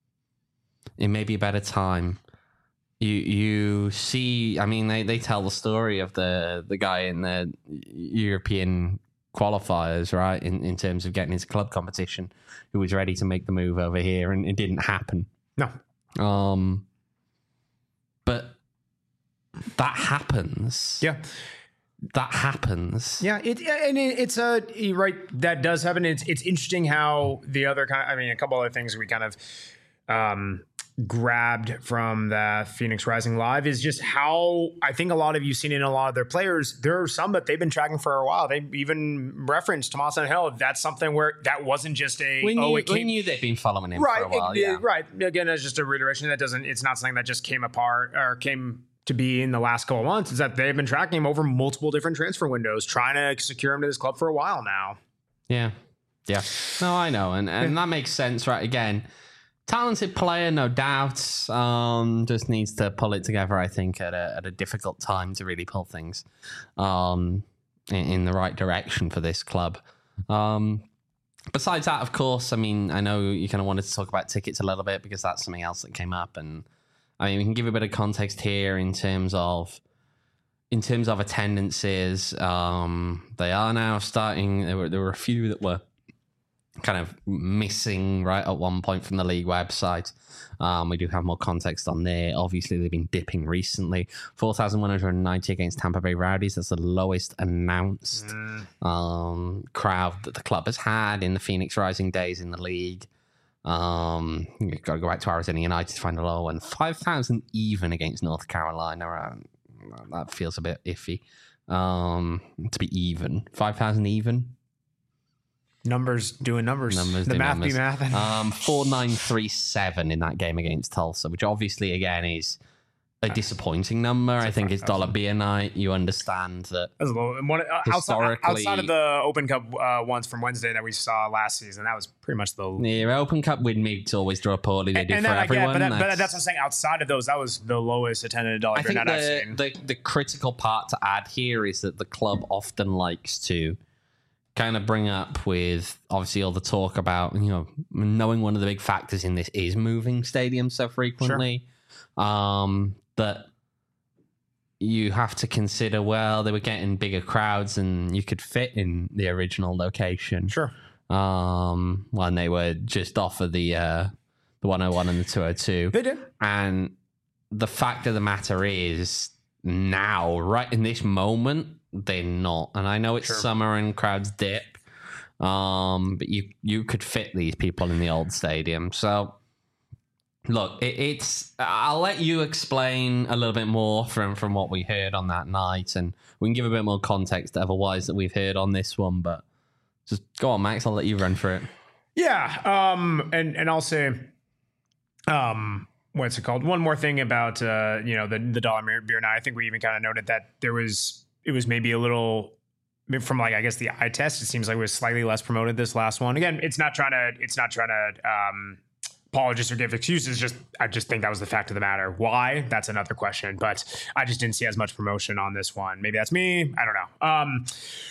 A: It may be a better time. You you see, I mean, they, they tell the story of the, the guy in the European qualifiers, right, in, in terms of getting into club competition, who was ready to make the move over here, and it didn't happen.
B: No.
A: Um, but that happens.
B: Yeah.
A: That happens.
B: Yeah, it and it, it's a you're right. That does happen. It's it's interesting how the other kind. I mean, a couple other things we kind of um, grabbed from the Phoenix Rising Live is just how I think a lot of you've seen in a lot of their players. There are some that they've been tracking for a while. They even referenced Tomas Angel. That's something where that wasn't just a
A: We knew,
B: oh it
A: we
B: came
A: knew they'd been following him
B: right
A: for a while.
B: it-
A: yeah.
B: right again. It's just a reiteration that doesn't. It's not something that just came apart or came to be in the last couple of months. Is that they've been tracking him over multiple different transfer windows, trying to secure him to this club for a while now.
A: Yeah. Yeah. No, I know. And and that makes sense, right? Again, talented player, no doubt. Um, just needs to pull it together, I think, at a at a difficult time to really pull things um in, in the right direction for this club. Um besides that, of course, I mean, I know you kind of wanted to talk about tickets a little bit because that's something else that came up. And I mean, we can give a bit of context here in terms of in terms of attendances. Um, they are now starting. There were there were a few that were kind of missing right at one point from the league website. Um, we do have more context on there. Obviously, they've been dipping recently. four thousand one hundred ninety against Tampa Bay Rowdies. That's the lowest announced
B: Mm.
A: um, crowd that the club has had in the Phoenix Rising days in the league. Um, you've got to go back to Arizona United to find a low one. five thousand even against North Carolina. Uh, that feels a bit iffy. Um, to be even. five thousand even.
B: Numbers doing numbers.
A: Numbers
B: the
A: do
B: math
A: numbers.
B: be math.
A: Um, four nine three seven in that game against Tulsa, which obviously, again, is a disappointing number. I think it's dollar beer night. You understand that.
B: That's a little, one, uh, outside,
A: Historically-
B: outside of the Open Cup uh, ones from Wednesday that we saw last season, that was pretty much the.
A: Yeah, Open Cup win meets always draw poorly. They do
B: and
A: for
B: that I get,
A: everyone.
B: but, that, but that's what I'm saying. Outside of those, that was the lowest attended dollar
A: I
B: beer
A: think
B: night I've
A: the,
B: seen.
A: the the critical part to add here is that the club often likes to kind of bring up with obviously all the talk about, you know, knowing one of the big factors in this is moving stadiums so frequently. Um, that you have to consider, well, they were getting bigger crowds and you could fit in the original location.
B: Sure.
A: Um, when they were just off of the uh, the one oh one and the two oh two.
B: They did.
A: And the fact of the matter is, now, right in this moment, they're not. And I know it's
B: Sure.
A: summer and crowds dip, um, but you you could fit these people in the old stadium. So, look, it, it's. I'll let you explain a little bit more from from what we heard on that night, and we can give a bit more context otherwise that we've heard on this one. But just go on, Max. I'll let you run through it.
B: Yeah, um, and and I'll say, um, what's it called? One more thing about uh, you know the the dollar beer night. I think we even kind of noted that there was it was maybe a little from like I guess the eye test. It seems like it was slightly less promoted this last one. Again, it's not trying to it's not trying to um, apologize or give excuses. Just I just think that was the fact of the matter. Why? That's another question. But I just didn't see as much promotion on this one. Maybe that's me. I don't know. Um,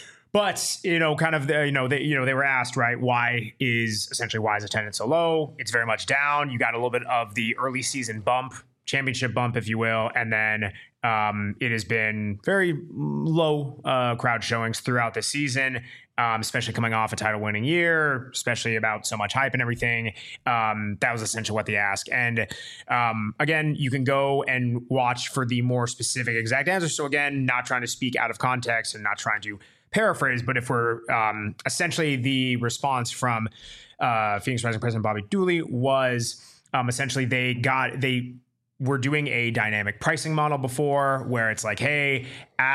B: But, you know, kind of, the, you know, they, you know, they were asked, right, why is essentially why is attendance so low? It's very much down. You got a little bit of the early season bump, championship bump, if you will. And then um, it has been very low uh, crowd showings throughout the season, um, especially coming off a title winning year, especially about so much hype and everything. Um, that was essentially what they asked. And um, again, you can go and watch for the more specific exact answer. So again, not trying to speak out of context and not trying to paraphrase, but if we're um, essentially the response from uh, Phoenix Rising President Bobby Dooley was um, essentially they got they were doing a dynamic pricing model before where it's like, hey,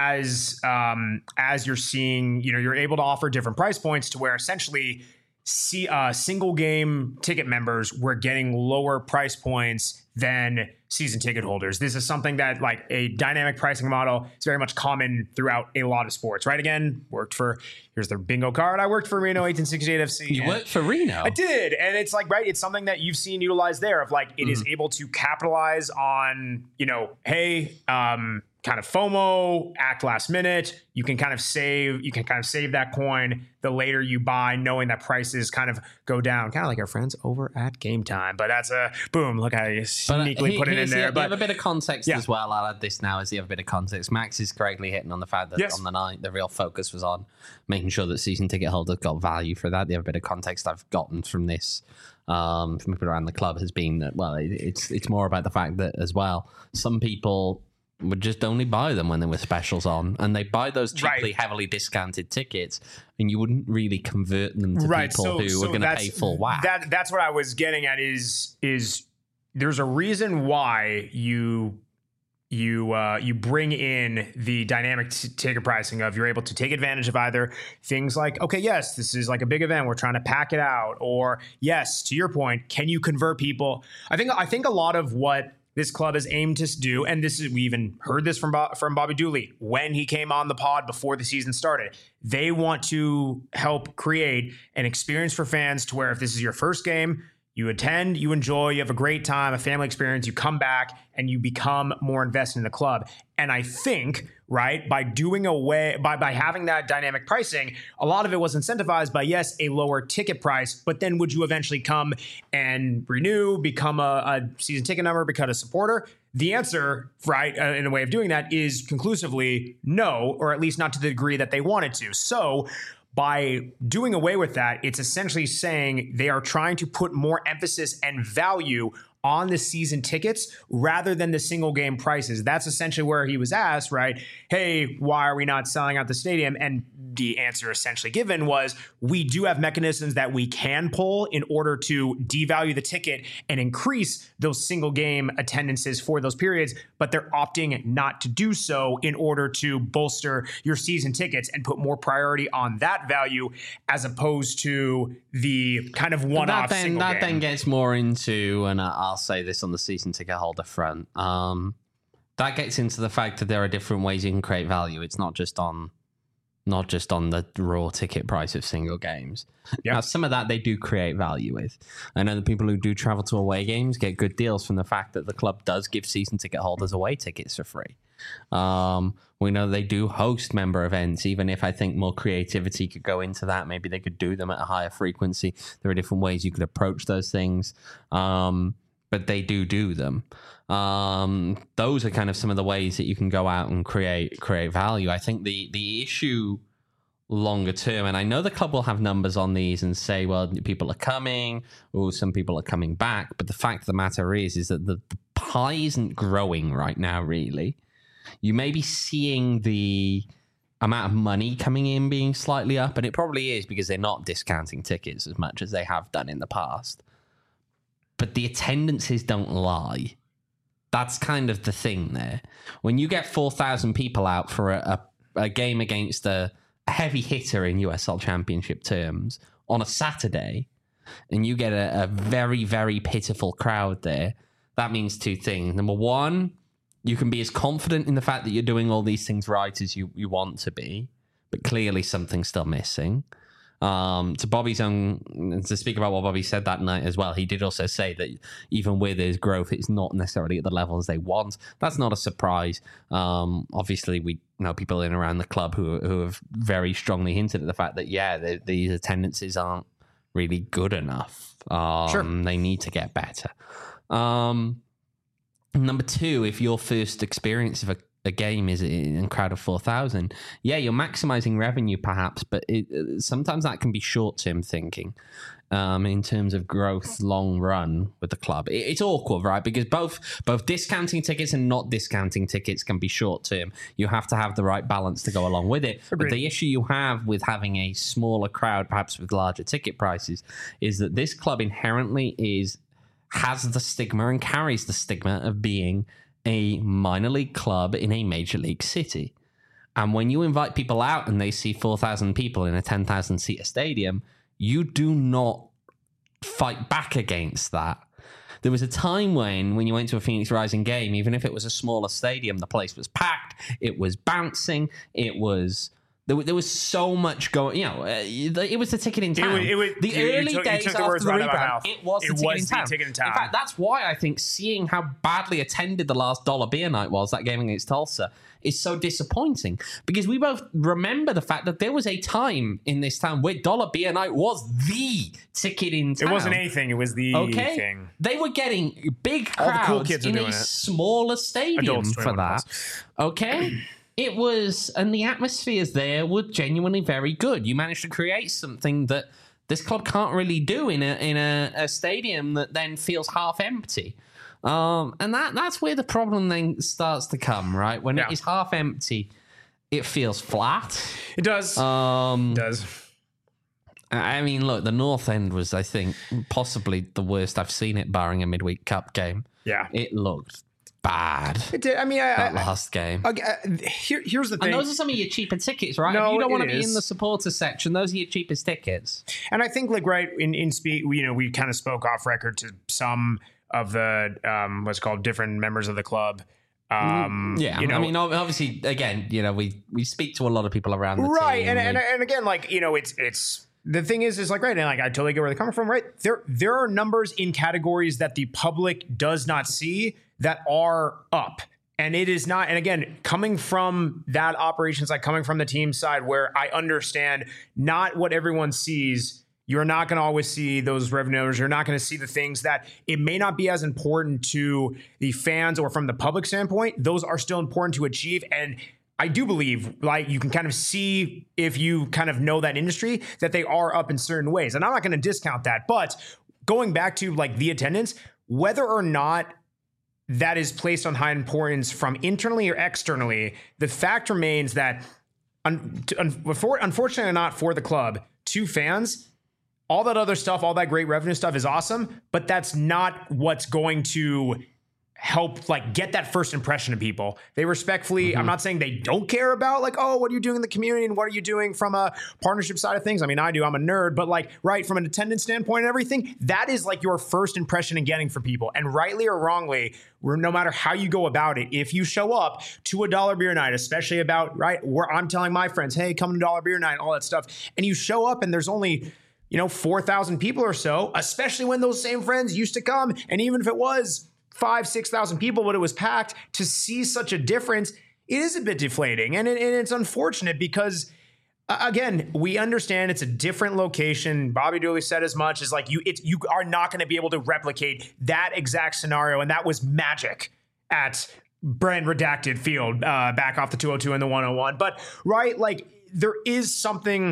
B: as um, as you're seeing, you know, you're able to offer different price points to where essentially see uh, single game ticket members were getting lower price points than season ticket holders. This is something that like a dynamic pricing model is very much common throughout a lot of sports, right? Again, worked for, here's the bingo card. I worked for Reno eighteen sixty-eight F C.
A: You worked for Reno?
B: I did. And it's like, right, it's something that you've seen utilized there of like, it mm-hmm. is able to capitalize on, you know, hey, um, kind of FOMO, act last minute. You can kind of save, you can kind of save that coin the later you buy, knowing that prices kind of go down, kind of like our friends over at Game Time. But that's a boom. Look how you sneakily
A: but, uh,
B: put it in there.
A: The,
B: but
A: you have a bit of context
B: yeah.
A: as well. I'll add this now as you have a bit of context. Max is correctly hitting on the fact that
B: yes.
A: on the night, the real focus was on making sure that season ticket holders got value for that. The other bit of context I've gotten from this, um, from people around the club has been that, well, it, it's it's more about the fact that as well, some people would just only buy them when there were specials on, and they buy those cheaply,
B: right.
A: heavily discounted tickets, and you wouldn't really convert them to
B: right.
A: people
B: so,
A: who
B: so
A: are going to pay full whack.
B: That, that's what I was getting at is, is there's a reason why you you uh, you bring in the dynamic t- ticket pricing of you're able to take advantage of either things like, okay, yes, this is like a big event, we're trying to pack it out, or yes, to your point, can you convert people? I think I think a lot of what this club has aimed to do, and this is we even heard this from Bo- from Bobby Dooley when he came on the pod before the season started. They want to help create an experience for fans to where if this is your first game, you attend, you enjoy, you have a great time, a family experience, you come back and you become more invested in the club. And I think, right, by doing away, by, by having that dynamic pricing, a lot of it was incentivized by, yes, a lower ticket price, but then would you eventually come and renew, become a, a season ticket number, become a supporter? The answer, right, uh, in a way of doing that is conclusively no, or at least not to the degree that they wanted to. So by doing away with that, it's essentially saying they are trying to put more emphasis and value on the season tickets rather than the single game prices. That's essentially where he was asked, right? Hey, why are we not selling out the stadium? And the answer essentially given was, we do have mechanisms that we can pull in order to devalue the ticket and increase those single game attendances for those periods, but they're opting not to do so in order to bolster your season tickets and put more priority on that value as opposed to the kind of one-off
A: that then,
B: single
A: that
B: game.
A: then gets more into, and I'll say this on the season ticket holder front, um, that gets into the fact that there are different ways you can create value. It's not just on not just on the raw ticket price of single games. Yep. Now, some of that they do create value with. I know the people who do travel to away games get good deals from the fact that the club does give season ticket holders away tickets for free. Um, we know they do host member events, even if I think more creativity could go into that. Maybe they could do them at a higher frequency. There are different ways you could approach those things. Um, but they do do them. Um, those are kind of some of the ways that you can go out and create create value. I think the the issue longer term, and I know the club will have numbers on these and say, well, people are coming, or some people are coming back. But the fact of the matter is, is that the, the pie isn't growing right now, really. You may be seeing the amount of money coming in being slightly up, and it probably is because they're not discounting tickets as much as they have done in the past. But the attendances don't lie. That's kind of the thing there. When you get four thousand people out for a, a, a game against a, a heavy hitter in U S L Championship terms on a Saturday, and you get a, a very, very pitiful crowd there, that means two things. Number one, you can be as confident in the fact that you're doing all these things right as you, you want to be, but clearly something's still missing. Um, to Bobby's own, to speak about what Bobby said that night as well, he did also say that even with his growth, it's not necessarily at the levels they want. That's not a surprise. Um, obviously, we know people in and around the club who who have very strongly hinted at the fact that, yeah, the, these attendances aren't really good enough. Um, sure. They need to get better. Um, number two, if your first experience of a a game is in a crowd of four thousand, yeah, you're maximizing revenue perhaps, but it, sometimes that can be short-term thinking um, in terms of growth long run with the club. It, it's awkward, right? Because both both discounting tickets and not discounting tickets can be short-term. You have to have the right balance to go along with it. Agreed. But the issue you have with having a smaller crowd, perhaps with larger ticket prices, is that this club inherently is has the stigma and carries the stigma of being a minor league club in a major league city. And when you invite people out and they see four thousand people in a ten thousand seater stadium, you do not fight back against that. There was a time when, when you went to a Phoenix Rising game, even if it was a smaller stadium, the place was packed, it was bouncing, it was... There, there was so much going, you know, uh, it was the ticket in town. It was, it was, the you, early you took, days you took after the, the rebound, it was, the, it ticket was in the ticket in town. In fact, that's why I think seeing how badly attended the last Dollar Beer Night was, that game against Tulsa, is so disappointing. Because we both remember the fact that there was a time in this town where Dollar Beer Night was the ticket in town.
B: It wasn't anything, it was the okay? thing.
A: They were getting big crowds cool kids in a it. smaller stadium for that. Okay? It was, and the atmospheres there were genuinely very good. You managed to create something that this club can't really do in a in a, a stadium that then feels half empty. Um, and that that's where the problem then starts to come, right? When yeah. it is half empty, it feels flat.
B: It does.
A: Um,
B: it does.
A: I mean, look, the North End was, I think, possibly the worst I've seen it, barring a midweek cup game.
B: Yeah.
A: It looked bad.
B: It did. I mean, I,
A: that
B: I,
A: last game.
B: I, I, here, here's the thing.
A: And those are some of your cheaper tickets, right?
B: No,
A: if you don't want to
B: is.
A: be in the supporter section, those are your cheapest tickets.
B: And I think, like, right in in speak, you know, we kind of spoke off record to some of the um, what's called different members of the club. Um,
A: yeah,
B: you know,
A: I mean, obviously, again, you know, we we speak to a lot of people around the
B: right,
A: team.
B: and and and again, like, you know, it's it's. The thing is, is like, right, and like, I totally get where they're coming from, right? There, there are numbers in categories that the public does not see that are up. And it is not, and again, coming from that operations, like coming from the team side where I understand not what everyone sees, you're not going to always see those revenue numbers. You're not going to see the things that it may not be as important to the fans or from the public standpoint. Those are still important to achieve. And I do believe, like, you can kind of see if you kind of know that industry that they are up in certain ways. And I'm not going to discount that. But going back to like the attendance, whether or not that is placed on high importance from internally or externally, the fact remains that un- un- unfortunately or not for the club, to fans, all that other stuff, all that great revenue stuff is awesome, but that's not what's going to help like get that first impression of people. They respectfully, mm-hmm. I'm not saying they don't care about like, oh, what are you doing in the community and what are you doing from a partnership side of things? I mean, I do, I'm a nerd, but like, right, from an attendance standpoint and everything, that is like your first impression in getting for people. And rightly or wrongly, no matter how you go about it, if you show up to a Dollar Beer Night, especially about, right, where I'm telling my friends, hey, come to Dollar Beer Night, all that stuff, and you show up and there's only, you know, four thousand people or so, especially when those same friends used to come, and even if it was five, six thousand people, but it was packed, to see such a difference, it is a bit deflating. And, it, and it's unfortunate because, uh, again, we understand it's a different location. Bobby Dooley said as much as like you, it's, you are not going to be able to replicate that exact scenario. And that was magic at Brand Redacted Field uh, back off the two oh two and the one oh one. But right, like there is something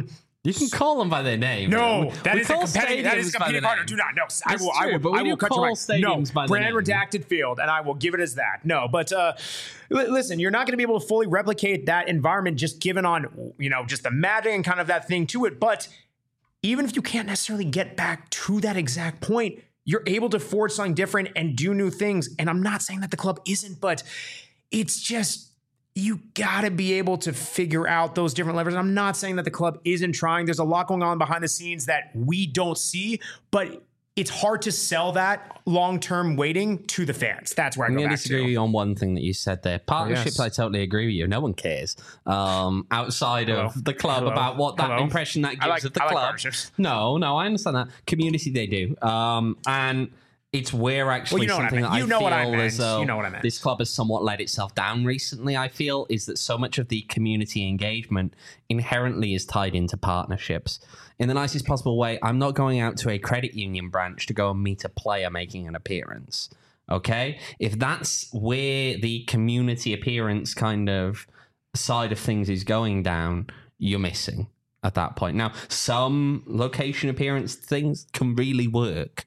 A: You can call them by their name.
B: No,
A: We-
B: that
A: we
B: is a
A: call
B: competitive. That is a
A: stadiums by
B: competing
A: their
B: partner.
A: name.
B: Do not. No, I
A: That's
B: will. I
A: true,
B: will.
A: but we
B: I
A: do
B: will cut you
A: call
B: right.
A: stadiums
B: No,
A: by their
B: brand
A: name.
B: redacted field, and I will give it as that. No, but uh, li- listen, you're not going to be able to fully replicate that environment just given on you know just the magic and kind of that thing to it. But even if you can't necessarily get back to that exact point, you're able to forge something different and do new things. And I'm not saying that the club isn't, but it's just. You got to be able to figure out those different levers. I'm not saying that the club isn't trying. There's a lot going on behind the scenes that we don't see, but it's hard to sell that long-term waiting to the fans. That's where I
A: I'm
B: go
A: going to
B: back
A: disagree
B: to.
A: on one thing that you said there. Partnerships,
B: yes.
A: I totally agree with you. No one cares um, outside
B: Hello.
A: of the club
B: Hello.
A: about what that
B: Hello.
A: impression that gives
B: I like-
A: of the
B: I like
A: club.
B: partnerships.
A: No, no, I understand that. Community, they do. Um, and it's where actually
B: Well, you know what I
A: something
B: meant.
A: that
B: You
A: I
B: know
A: feel
B: what I meant.
A: as though
B: You know what I meant.
A: this club has somewhat let itself down recently, I feel, is that so much of the community engagement inherently is tied into partnerships. In the nicest possible way, I'm not going out to a credit union branch to go and meet a player making an appearance. Okay? If that's where the community appearance kind of side of things is going down, you're missing at that point. Now, some location appearance things can really work,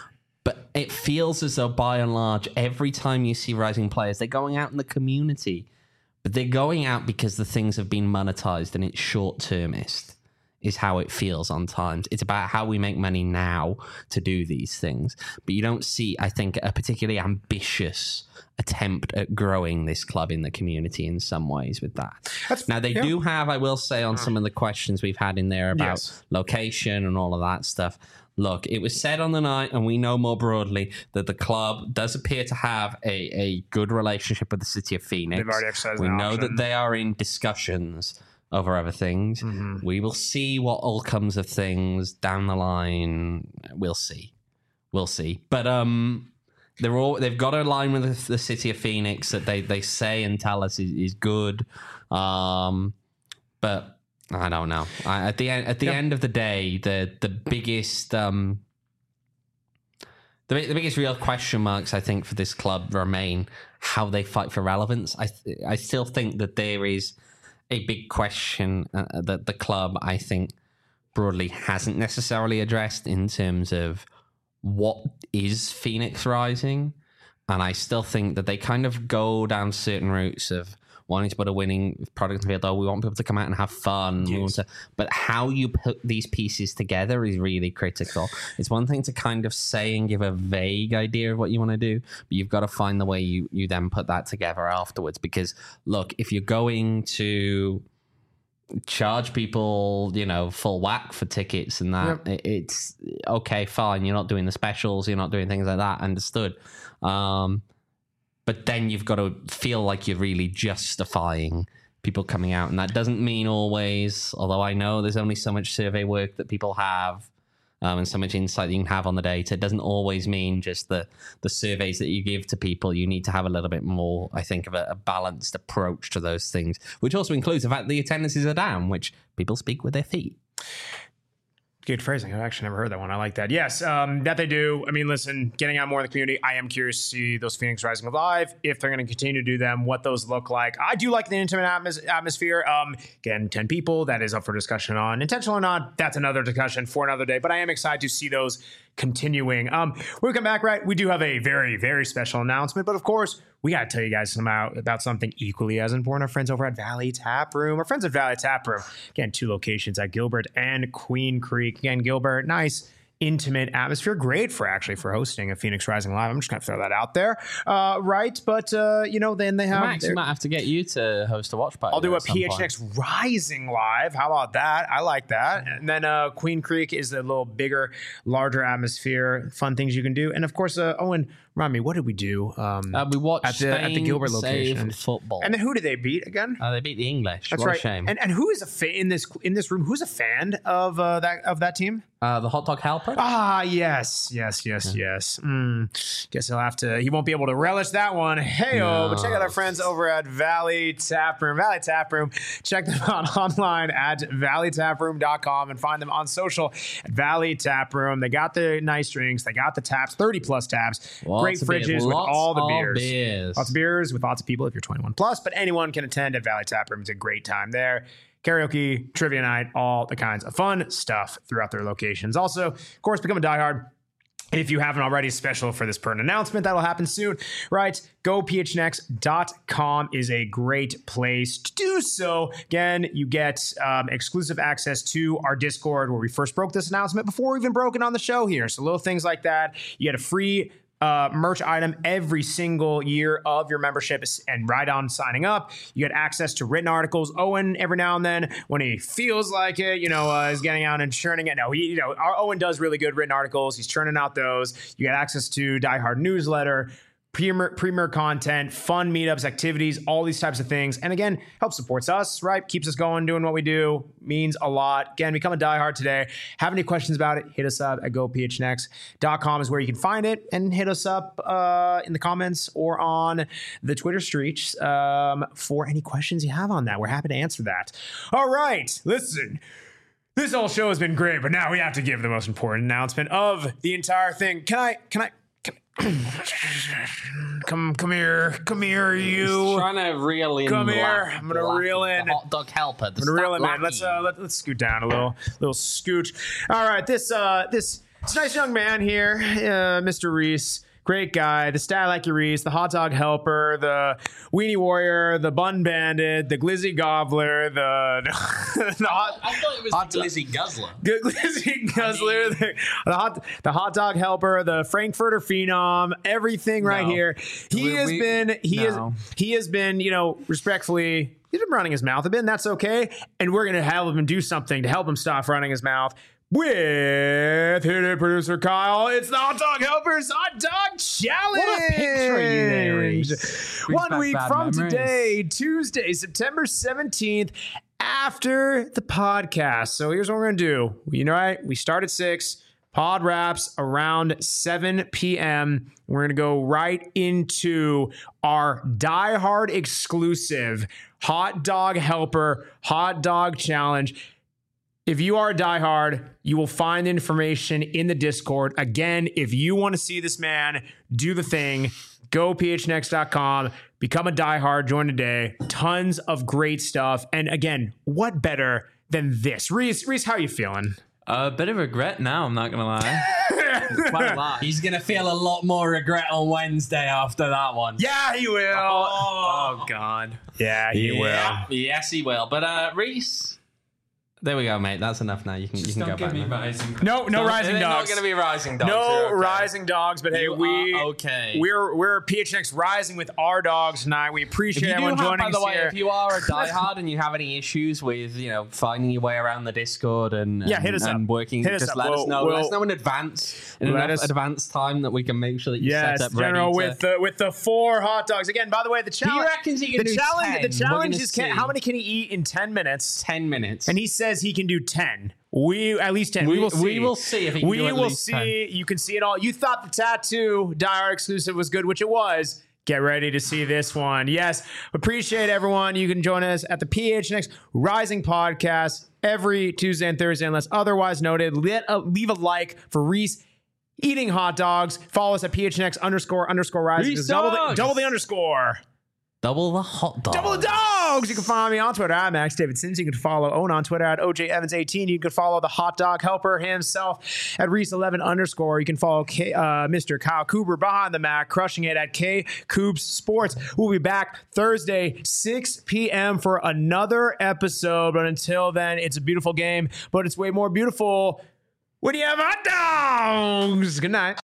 A: but it feels as though, by and large, every time you see rising players, they're going out in the community, but they're going out because the things have been monetized and it's short-termist, is how it feels on times. It's about how we make money now to do these things. But you don't see, I think, a particularly ambitious attempt at growing this club in the community in some ways with that.
B: That's-
A: now, they
B: yeah.
A: do have, I will say, on some of the questions we've had in there about
B: Yes.
A: location and all of that stuff. Look, it was said on the night, and we know more broadly, that the club does appear to have a, a good relationship with the city of Phoenix.
B: They've already exercised
A: We
B: an
A: know
B: option.
A: that they are in discussions over other things.
B: Mm-hmm.
A: We will see what all comes of things down the line. We'll see. We'll see. But um, they're all they've got a line with the, the city of Phoenix that they, they say and tell us is, is good. Um, but I don't know. I, at the end, at the
B: Yeah.
A: end of the day, the the biggest um, the, the biggest real question marks I think for this club remain how they fight for relevance. I th- I still think that there is a big question uh, that the club, I think, broadly hasn't necessarily addressed in terms of what is Phoenix Rising, and I still think that they kind of go down certain routes of wanting to put a winning product in the field. Oh, we want people to come out and have fun. We want to, but how you put these pieces together is really critical. It's one thing to kind of say and give a vague idea of what you want to do, but you've got to find the way you, you then put that together afterwards. Because, look, if you're going to charge people, you know, full whack for tickets and that,
B: Yep.
A: it, it's okay, fine. You're not doing the specials. You're not doing things like that. Understood. Um, But then you've got to feel like you're really justifying people coming out. And that doesn't mean always, although I know there's only so much survey work that people have um, and so much insight that you can have on the data. It doesn't always mean just the, the surveys that you give to people. You need to have a little bit more, I think, of a, a balanced approach to those things, which also includes the fact that the attendances are down, which people speak with their feet.
B: Good phrasing. I've actually never heard that one. I like that. Yes, um, that they do. I mean, listen, getting out more in the community. I am curious to see those Phoenix Rising live, if they're going to continue to do them, what those look like. I do like the intimate atmos- atmosphere. Um, again, ten people. That is up for discussion on intentional or not. That's another discussion for another day. But I am excited to see those continuing. Um, when we come back, right, we do have a very, very special announcement. But of course, we got to tell you guys about, about something equally as important. Our friends over at Valley Tap Room. Our friends at Valley Tap Room. Again, two locations at Gilbert and Queen Creek. Again, Gilbert, nice, intimate atmosphere. Great for actually for hosting a Phoenix Rising Live. I'm just going to throw that out there. Uh, right. But, uh, you know, then they have...
A: Max,
B: their-
A: we might have to get you to host a watch party.
B: I'll do a
A: at some
B: P H
A: point.
B: X Rising Live. How about that? I like that. And then uh, Queen Creek is a little bigger, larger atmosphere, fun things you can do. And of course, uh, Owen, remind me, what did we do? Um,
A: Uh, we watched
B: at the, at the
A: Spain
B: Gilbert
A: save
B: location.
A: football.
B: And then who did they beat again?
A: Uh, they beat the English.
B: That's
A: what
B: right.
A: a shame.
B: And and who is a fan in this in this room? Who's a fan of uh, that of that team?
A: Uh, the hot dog helper.
B: Ah, yes, yes, yes, yes. Mm, guess he'll have to. He won't be able to relish that one. Hey, oh, but check out our friends over at Valley Tap Room. Valley Tap Room. Check them out online at valley tap room dot com and find them on social at Valley Tap Room. They got the nice drinks. They got the taps, thirty plus taps.
A: Lots
B: Great
A: of beers.
B: fridges with
A: Lots
B: all the
A: of
B: beers.
A: beers.
B: Lots of beers with lots of people if you're twenty-one plus. But anyone can attend at Valley Tap Room. It's a great time there. karaoke, trivia night, all the kinds of fun stuff throughout their locations. Also, of course, become a diehard. If you haven't already, special for this pertinent announcement that'll happen soon, right? go p h n x dot com is a great place to do so. Again, you get um, exclusive access to our Discord where we first broke this announcement before we even broke it on the show here. So little things like that. You get a free Uh, merch item every single year of your membership, and right on signing up, you get access to written articles. Owen, every now and then, when he feels like it, you know, uh, is getting out and churning it. No, he, you know, our Owen does really good written articles. He's churning out those. You get access to Die Hard newsletter, Premier, premier content, fun meetups, activities, all these types of things. And again, helps supports us, right? Keeps us going, doing what we do. Means a lot. Again, become a diehard today. Have any questions about it, hit us up at go p h n x dot com is where you can find it. And hit us up uh, in the comments or on the Twitter streets um, for any questions you have on that. We're happy to answer that. All right, listen. This whole show has been great, but now we have to give the most important announcement of the entire thing. Can I, can I, come, come here, come here, you.
A: He's trying to reel in.
B: Come
A: the
B: here.
A: lack-
B: I'm gonna
A: the lack-
B: reel in.
A: the hot dog helper.
B: I'm gonna reel him in. Let's uh, let, let's scoot down a little, little scoot. All right, this uh, this this nice young man here, uh, Mister Reese. Great guy, the Stat Like Your Reese, the Hot Dog Helper, the Weenie Warrior, the Bun Bandit, the Glizzy Gobbler, the, the hot,
A: I thought it was
B: hot
A: the Glizzy Guzzler.
B: Good Glizzy Guzzler, the, the hot the hot dog helper, the Frankfurter Phenom, everything right
E: No.
B: here. He
E: We-
B: has
E: we-
B: been he
E: no.
B: has he has been, you know, respectfully, he's been running his mouth a bit, and that's okay. And we're gonna help him do something to help him stop running his mouth. With hit it producer Kyle, it's the Hot Dog Helpers Hot Dog Challenge.
E: What a picture you there, Reese. Brings
B: One
E: back
B: week
E: bad
B: from
E: memories.
B: today, Tuesday, September seventeenth, after the podcast. So here's what we're going to do. You know, right? We start at six. Pod wraps around seven p.m. We're going to go right into our Die Hard exclusive Hot Dog Helper Hot Dog Challenge. If you are a diehard, you will find information in the Discord. Again, if you want to see this man do the thing, go p h n x dot com, become a diehard, join today. Tons of great stuff. And again, what better than this? Reese, Reese, how are you feeling?
E: A bit of regret now, I'm not going to lie. Quite a lot.
A: He's going to feel a lot more regret on Wednesday after that one.
B: Yeah, he will.
E: Oh, God.
B: Yeah, he
A: Yeah. Yes, he will. But uh, Reese, there we go, mate. That's enough now. You can, you can
E: Don't
A: go
E: give
A: back
E: me
A: now.
E: rising.
B: No, no
A: Don't-
B: rising
A: they're
B: dogs.
A: not going to be rising dogs.
B: no
A: They're okay.
B: rising dogs, but hey,
A: You
B: we
A: are okay.
B: we're we're P H N X rising with our dogs tonight. We
A: If
B: appreciate
A: you do
B: everyone
A: have,
B: joining
A: by the
B: us
A: way,
B: here.
A: if you are a diehard and you have any issues with, you know, finding your way around the Discord and,
B: Yeah,
A: and,
B: hit us
A: and
B: up.
A: working,
B: Hit us
A: just
B: up.
A: let us
B: We'll-
A: know.
B: we'll-
A: let us know in advance, in
B: Let
A: enough
B: us-
A: advance time that we can make sure that you
B: Yes,
A: set up
B: General,
A: ready
B: with
A: to,
B: the with the four hot dogs. Again, by the way, the challenge.
A: reckons he can
B: the
A: do
B: challenge.
A: ten.
B: The
A: We're
B: challenge
A: gonna
B: is can,
A: see.
B: how many can he eat in ten minutes?
A: ten minutes.
B: And he says he can do ten. We at least ten. We,
A: We-
B: will see.
A: we will see if he can
B: we
A: do at
B: will
A: least
B: see.
A: ten.
B: You can see it all. You thought the tattoo Die Hard exclusive was good, which it was. Get ready to see this one. Yes, appreciate everyone. You can join us at the P H N X Rising Podcast every Tuesday and Thursday, unless otherwise noted. Let a, leave a like for Reese eating hot dogs. Follow us at P H N X underscore underscore Rising.
A: Reese
B: Double the,
A: dogs.
B: double the underscore.
A: double the hot dog.
B: Double the dogs. You can follow me on Twitter at Max David Sims. You can follow Owen on Twitter at O J Evans eighteen. You can follow the hot dog helper himself at Reese eleven underscore. You can follow K, uh, Mister Kyle Cooper behind the Mac, crushing it at K Coops Sports. We'll be back Thursday, six p.m. for another episode. But until then, it's a beautiful game, but it's way more beautiful when you have hot dogs. Good night.